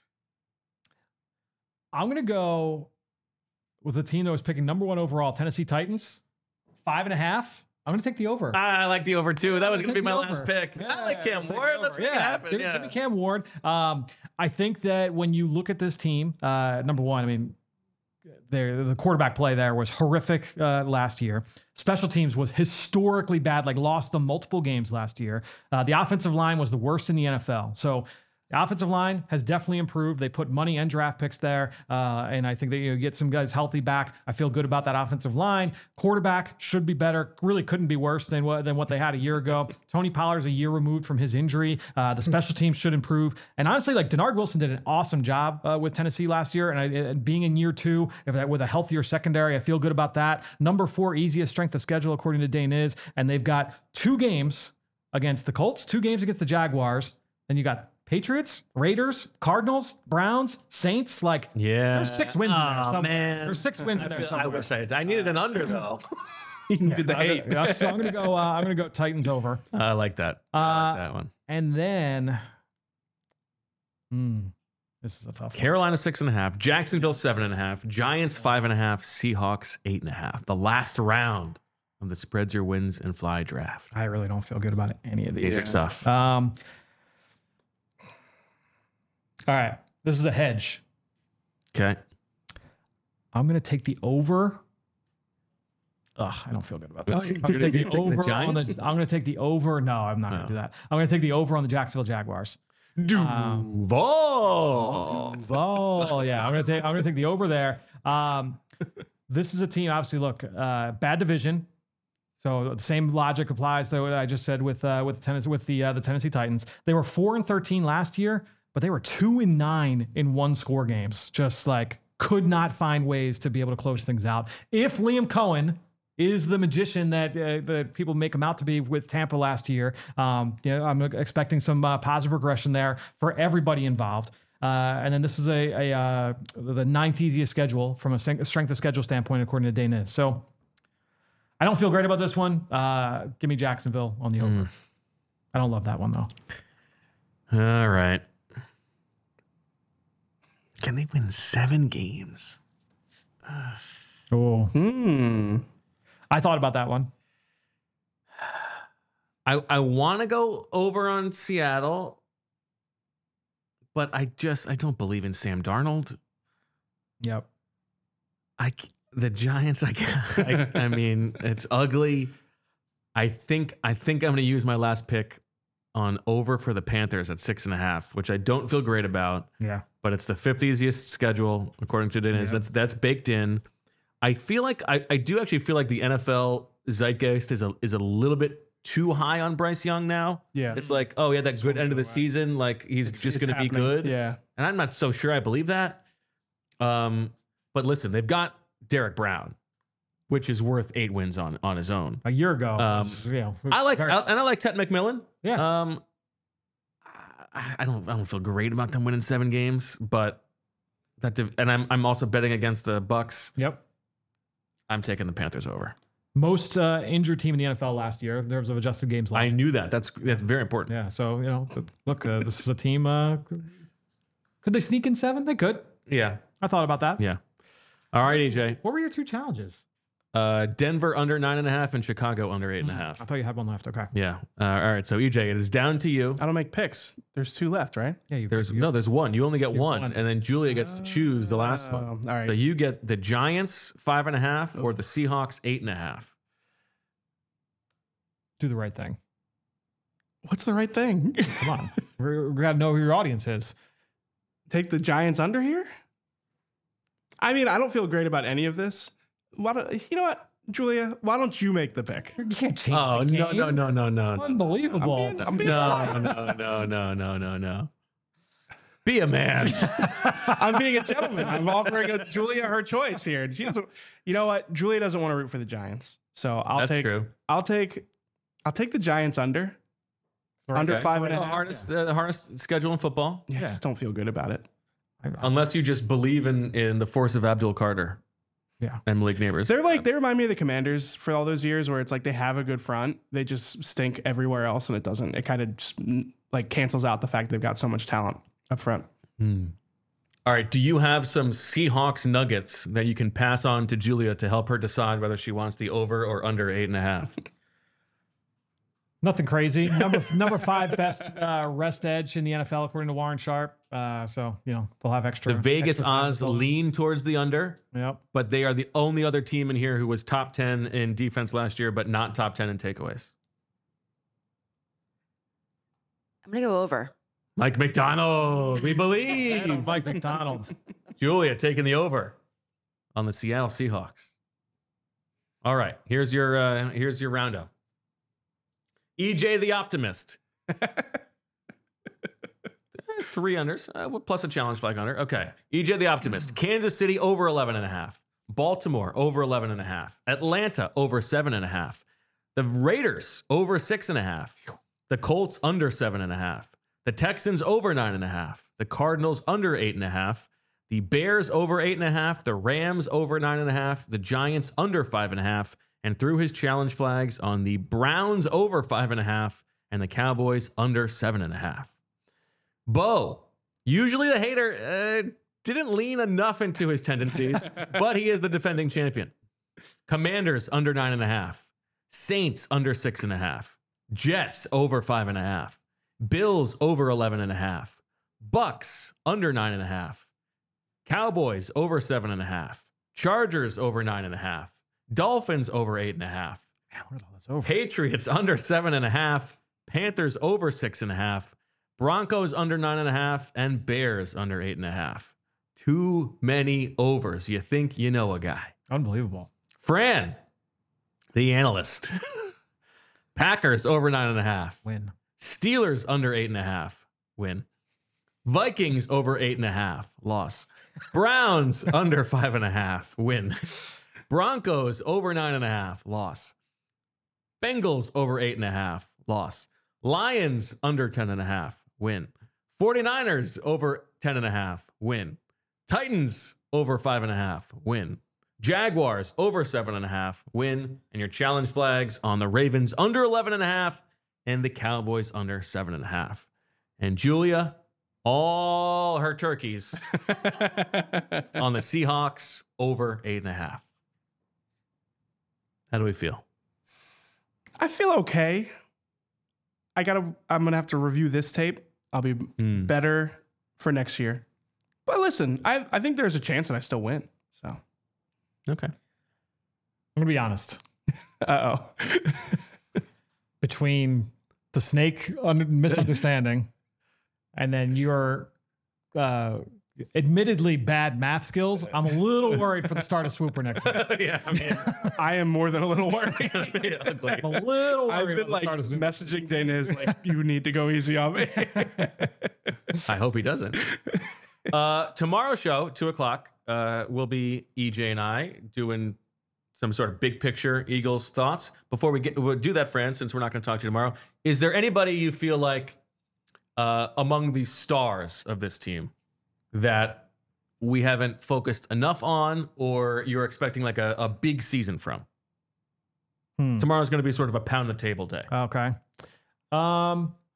gonna go with the team that was picking number 1 overall, Tennessee Titans, 5.5. I'm going to take the over. I like the over too. That was going to be my last pick. Yeah, I like Cam Ward. Let's make it happen. Give me Cam Ward. I think that when you look at this team, number 1, I mean, the quarterback play there was horrific last year. Special teams was historically bad, like lost them multiple games last year. The offensive line was the worst in the NFL. So the offensive line has definitely improved. They put money and draft picks there, and I think that you get some guys healthy back. I feel good about that offensive line. Quarterback should be better. Really couldn't be worse than what they had a year ago. Tony Pollard's a year removed from his injury. The special teams should improve. And honestly, like Denard Wilson did an awesome job with Tennessee last year. And being in year 2 with a healthier secondary, I feel good about that. Number 4 easiest strength of schedule according to Dane is, and they've got 2 games against the Colts, 2 games against the Jaguars. Then you got Patriots, Raiders, Cardinals, Browns, Saints. Like, there's 6 wins in there. Oh, man. There's 6 wins in there. I wish I needed an under though. You needed the 8. So I'm gonna go Titans over. I like that. I like that one. And then, this is a tough one. Carolina 6.5, Jacksonville 7.5, Giants 5.5, Seahawks 8.5. The last round of the spreads your wins and fly draft. I really don't feel good about any of these. These are tough. All right, this is a hedge. Okay. I'm going to take the over. Ugh, I don't feel good about this. I'm going to take the over. I'm going to take the over. No, I'm not going to do that. I'm going to take the over on the Jacksonville Jaguars. Duval. Duval. Yeah, I'm gonna take the over there. This is a team. Obviously, look, bad division. So the same logic applies to what I just said with the Tennessee Titans. They were 4-13 last year, but they were 2-9 in one-score games. Just like could not find ways to be able to close things out. If Liam Cohen is the magician that people make him out to be with Tampa last year, I'm expecting some positive regression there for everybody involved. And then this is the ninth easiest schedule from a strength of schedule standpoint, according to Dana. So I don't feel great about this one. Give me Jacksonville on the over. I don't love that one, though. All right. Can they win 7 games? Oh. I thought about that one. I want to go over on Seattle, but I don't believe in Sam Darnold. Yep. The Giants, I mean, it's ugly. I think I'm going to use my last pick on over for the Panthers at 6.5, which I don't feel great about. Yeah. But it's the 5th easiest schedule according to Dennis. Yep. That's baked in. I feel like I do actually feel like the NFL zeitgeist is a little bit too high on Bryce Young now. Yeah. It's like, oh yeah, that good end of the season, like he's just going to be good. Yeah. And I'm not so sure I believe that. But listen, they've got Derek Brown, which is worth 8 wins on his own. A year ago. I like Ted McMillan. Yeah. I don't feel great about them winning 7 games, but I'm also betting against the Bucks. Yep. I'm taking the Panthers over. Most injured team in the NFL last year in terms of adjusted games lost. I knew that. That's very important. Yeah. So look, this is a team. Could they sneak in 7? They could. Yeah. I thought about that. Yeah. All right, EJ. What were your 2 challenges? Denver under 9.5 and Chicago under 8.5. I thought you had one left. Okay. Yeah. All right. So EJ, it is down to you. I don't make picks. There's 2 left, right? Yeah. There's 1. You only get one, and then Julia gets to choose the last one. All right. So you get the Giants 5.5 or the Seahawks 8.5. Do the right thing. What's the right thing? Come on. we got to know who your audience is. Take the Giants under here? I mean, I don't feel great about any of this. You know what, Julia? Why don't you make the pick? You can't change. Oh, the no, game. no. Unbelievable. I'm being No. Be a man. I'm being a gentleman. I'm offering Julia her choice here. She doesn't. You know what? Julia doesn't want to root for the Giants, so I'll That's take. true. I'll take the Giants under. Under 5.5. The hardest schedule in football. Yeah, I just don't feel good about it. Unless you just believe in the force of Abdul Carter. Yeah. And Malik Neighbors. They remind me of the Commanders for all those years where it's like they have a good front. They just stink everywhere else, and it kind of just like cancels out the fact they've got so much talent up front. All right. Do you have some Seahawks nuggets that you can pass on to Julia to help her decide whether she wants the over or under 8.5? Nothing crazy. Number 5 best rest edge in the NFL according to Warren Sharp. So they'll have extra. The Vegas extra time odds to build. lean towards the under. Yep. But they are the only other team in here who was top 10 in defense last year, but not top 10 in takeaways. I'm going to go over. Mike McDonald, we believe. Mike McDonald. Julia taking the over on the Seattle Seahawks. All right, here's your roundup. EJ the Optimist. 3 unders, plus a challenge flag under. Okay. EJ the Optimist. Kansas City over 11.5. Baltimore over 11.5. Atlanta over 7.5. The Raiders over 6.5. The Colts under 7.5. The Texans over 9.5. The Cardinals under 8.5. The Bears over 8.5. The Rams over 9.5. The Giants under 5.5. And threw his challenge flags on the Browns over 5.5 and the Cowboys under 7.5. Bo, usually the hater, didn't lean enough into his tendencies, but he is the defending champion. Commanders under 9.5. Saints under 6.5. Jets over 5.5. Bills over 11.5. Bucks under 9.5. Cowboys over 7.5. Chargers over 9.5. Dolphins over 8.5. Patriots under 7.5. Panthers over 6.5. Broncos under 9.5, and Bears under 8.5. Too many overs. You think you know a guy. Unbelievable. Fran, the analyst. Packers over 9.5. Win. Steelers under 8.5. Win. Vikings over 8.5. Loss. Browns under 5.5. Win. Broncos over 9.5. Loss. Bengals over 8.5. Loss. Lions under 10.5. Win. 49ers over 10.5. Win. Titans over 5.5. Win. Jaguars over 7.5. Win. And your challenge flags on the Ravens under 11.5 and the Cowboys under 7.5. And Julia, all her turkeys on the Seahawks over 8.5. How do we feel? I feel okay. I'm gonna have to review this tape. I'll be better for next year. But listen, I think there's a chance that I still win. So Okay. I'm gonna be honest. oh. Between the snake misunderstanding and then your admittedly bad math skills, I'm a little worried for the start of Swooper next week. Yeah, I mean, I am more than a little worried. ugly. I'm a little worried I've been about the like start of Swooper. messaging Daniz like, you need to go easy on me. I hope he doesn't. Tomorrow's show, 2:00, will be EJ and I doing some sort of big picture Eagles thoughts. Before we'll do that, Fran, since we're not going to talk to you tomorrow, is there anybody you feel like among the stars of this team that we haven't focused enough on, or you're expecting like a big season from? Tomorrow's going to be sort of a pound the table day. Okay. I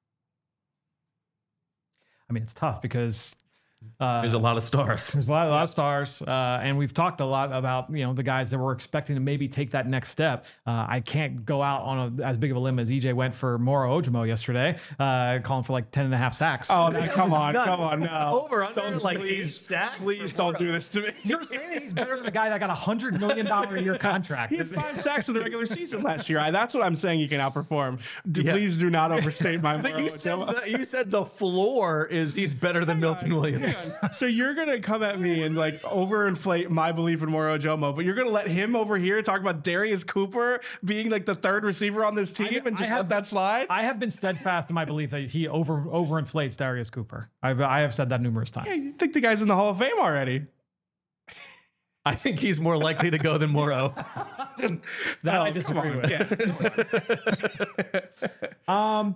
mean, it's tough because There's a lot of stars. there's a lot of stars, and we've talked a lot about the guys that we're expecting to maybe take that next step. I can't go out on as big of a limb as EJ went for Moro Ojomo yesterday, calling for like 10.5 sacks. Oh, come on, no. Over under Don't, like please, 8 sacks. please don't do this to me. You're saying that he's better than a guy that got $100 million a year contract. He had 5 sacks in the regular season last year. That's what I'm saying. He can outperform. Please do not overstate my. You said the floor is he's better than Milton Williams. So you're gonna come at me and like overinflate my belief in Moro Ojomo, but you're gonna let him over here talk about Darius Cooper being like the third receiver on this team and just let that slide? I have been steadfast in my belief that he overinflates Darius Cooper. I have said that numerous times. Yeah, you think the guy's in the Hall of Fame already? I think he's more likely to go than Moro. That I disagree with. Yeah.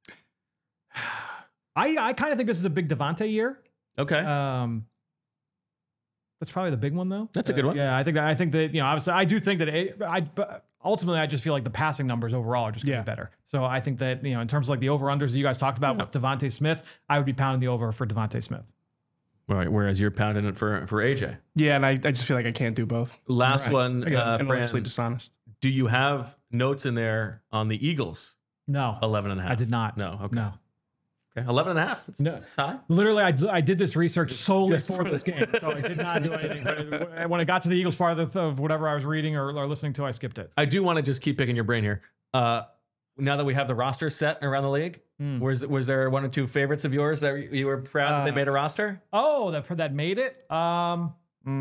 I kind of think this is a big Devontae year. Okay. That's probably the big one, though. That's a good one. Yeah, I think that obviously I do think that but ultimately I just feel like the passing numbers overall are just going to be better. So I think that in terms of like the over unders that you guys talked about with Devontae Smith, I would be pounding the over for Devontae Smith. Right. Whereas you're pounding it for AJ. Yeah, and I just feel like I can't do both. Last one, Intellectually Fran, dishonest. do you have notes in there on the Eagles? No, 11.5. I did not. No. Okay. No. Okay. 11.5. No. It's high. Literally, I did this research solely for this game, so I did not do anything. But when it got to the Eagles part of whatever I was reading or listening to, I skipped it. I do want to just keep picking your brain here. Now that we have the roster set around the league, was there one or two favorites of yours that you were proud that they made a roster? Oh, that made it. Off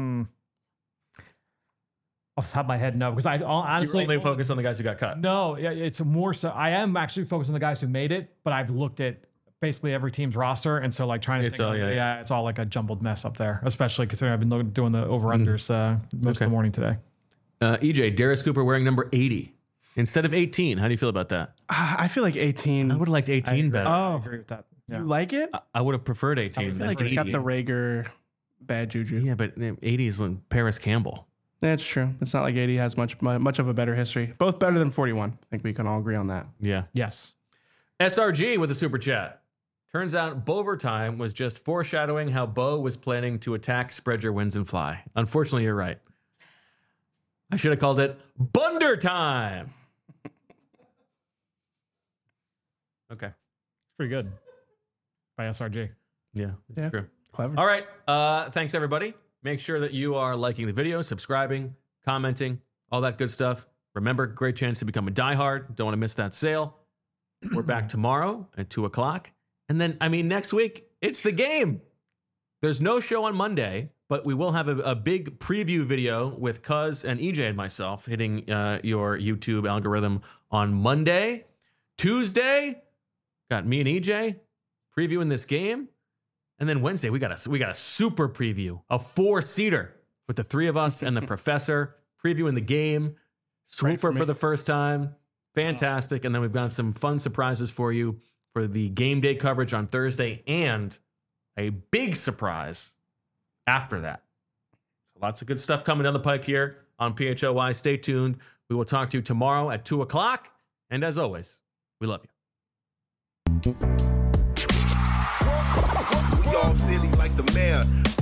the top of my head, no, because I honestly You only focus on the guys who got cut. No, it's more so. I am actually focused on the guys who made it, but I've looked at basically every team's roster, and so like trying to think it's all like a jumbled mess up there, especially considering I've been doing the over unders most of the morning today. EJ, Darius Cooper wearing number 80 instead of 18. How do you feel about that? I feel like 18. I would have liked 18 better. I agree with that. Yeah. You like it? I would have preferred 18. I feel like it's got the Rager bad juju. Yeah, but 80 is Paris Campbell. That's true. It's not like 80 has much of a better history. Both better than 41. I think we can all agree on that. Yeah. Yes. SRG with a super chat. Turns out Bovertime was just foreshadowing how Bo was planning to attack, spread your wings, and fly. Unfortunately, you're right. I should have called it Bunder Time. Okay. It's pretty good by SRG. Yeah, it's true. Clever. All right. Thanks, everybody. Make sure that you are liking the video, subscribing, commenting, all that good stuff. Remember, great chance to become a diehard. Don't want to miss that sale. We're back tomorrow at 2:00. And then, I mean, next week, it's the game. There's no show on Monday, but we will have a big preview video with Cuz and EJ and myself hitting your YouTube algorithm on Monday. Tuesday, got me and EJ previewing this game. And then Wednesday, we got a super preview, a 4-seater with the three of us and the professor previewing the game. Swooper for the first time. Fantastic. And then we've got some fun surprises for you for the game day coverage on Thursday and a big surprise after that. Lots of good stuff coming down the pike here on PHLY. Stay tuned. We will talk to you tomorrow at 2 o'clock. And as always, we love you. We all silly like the mayor.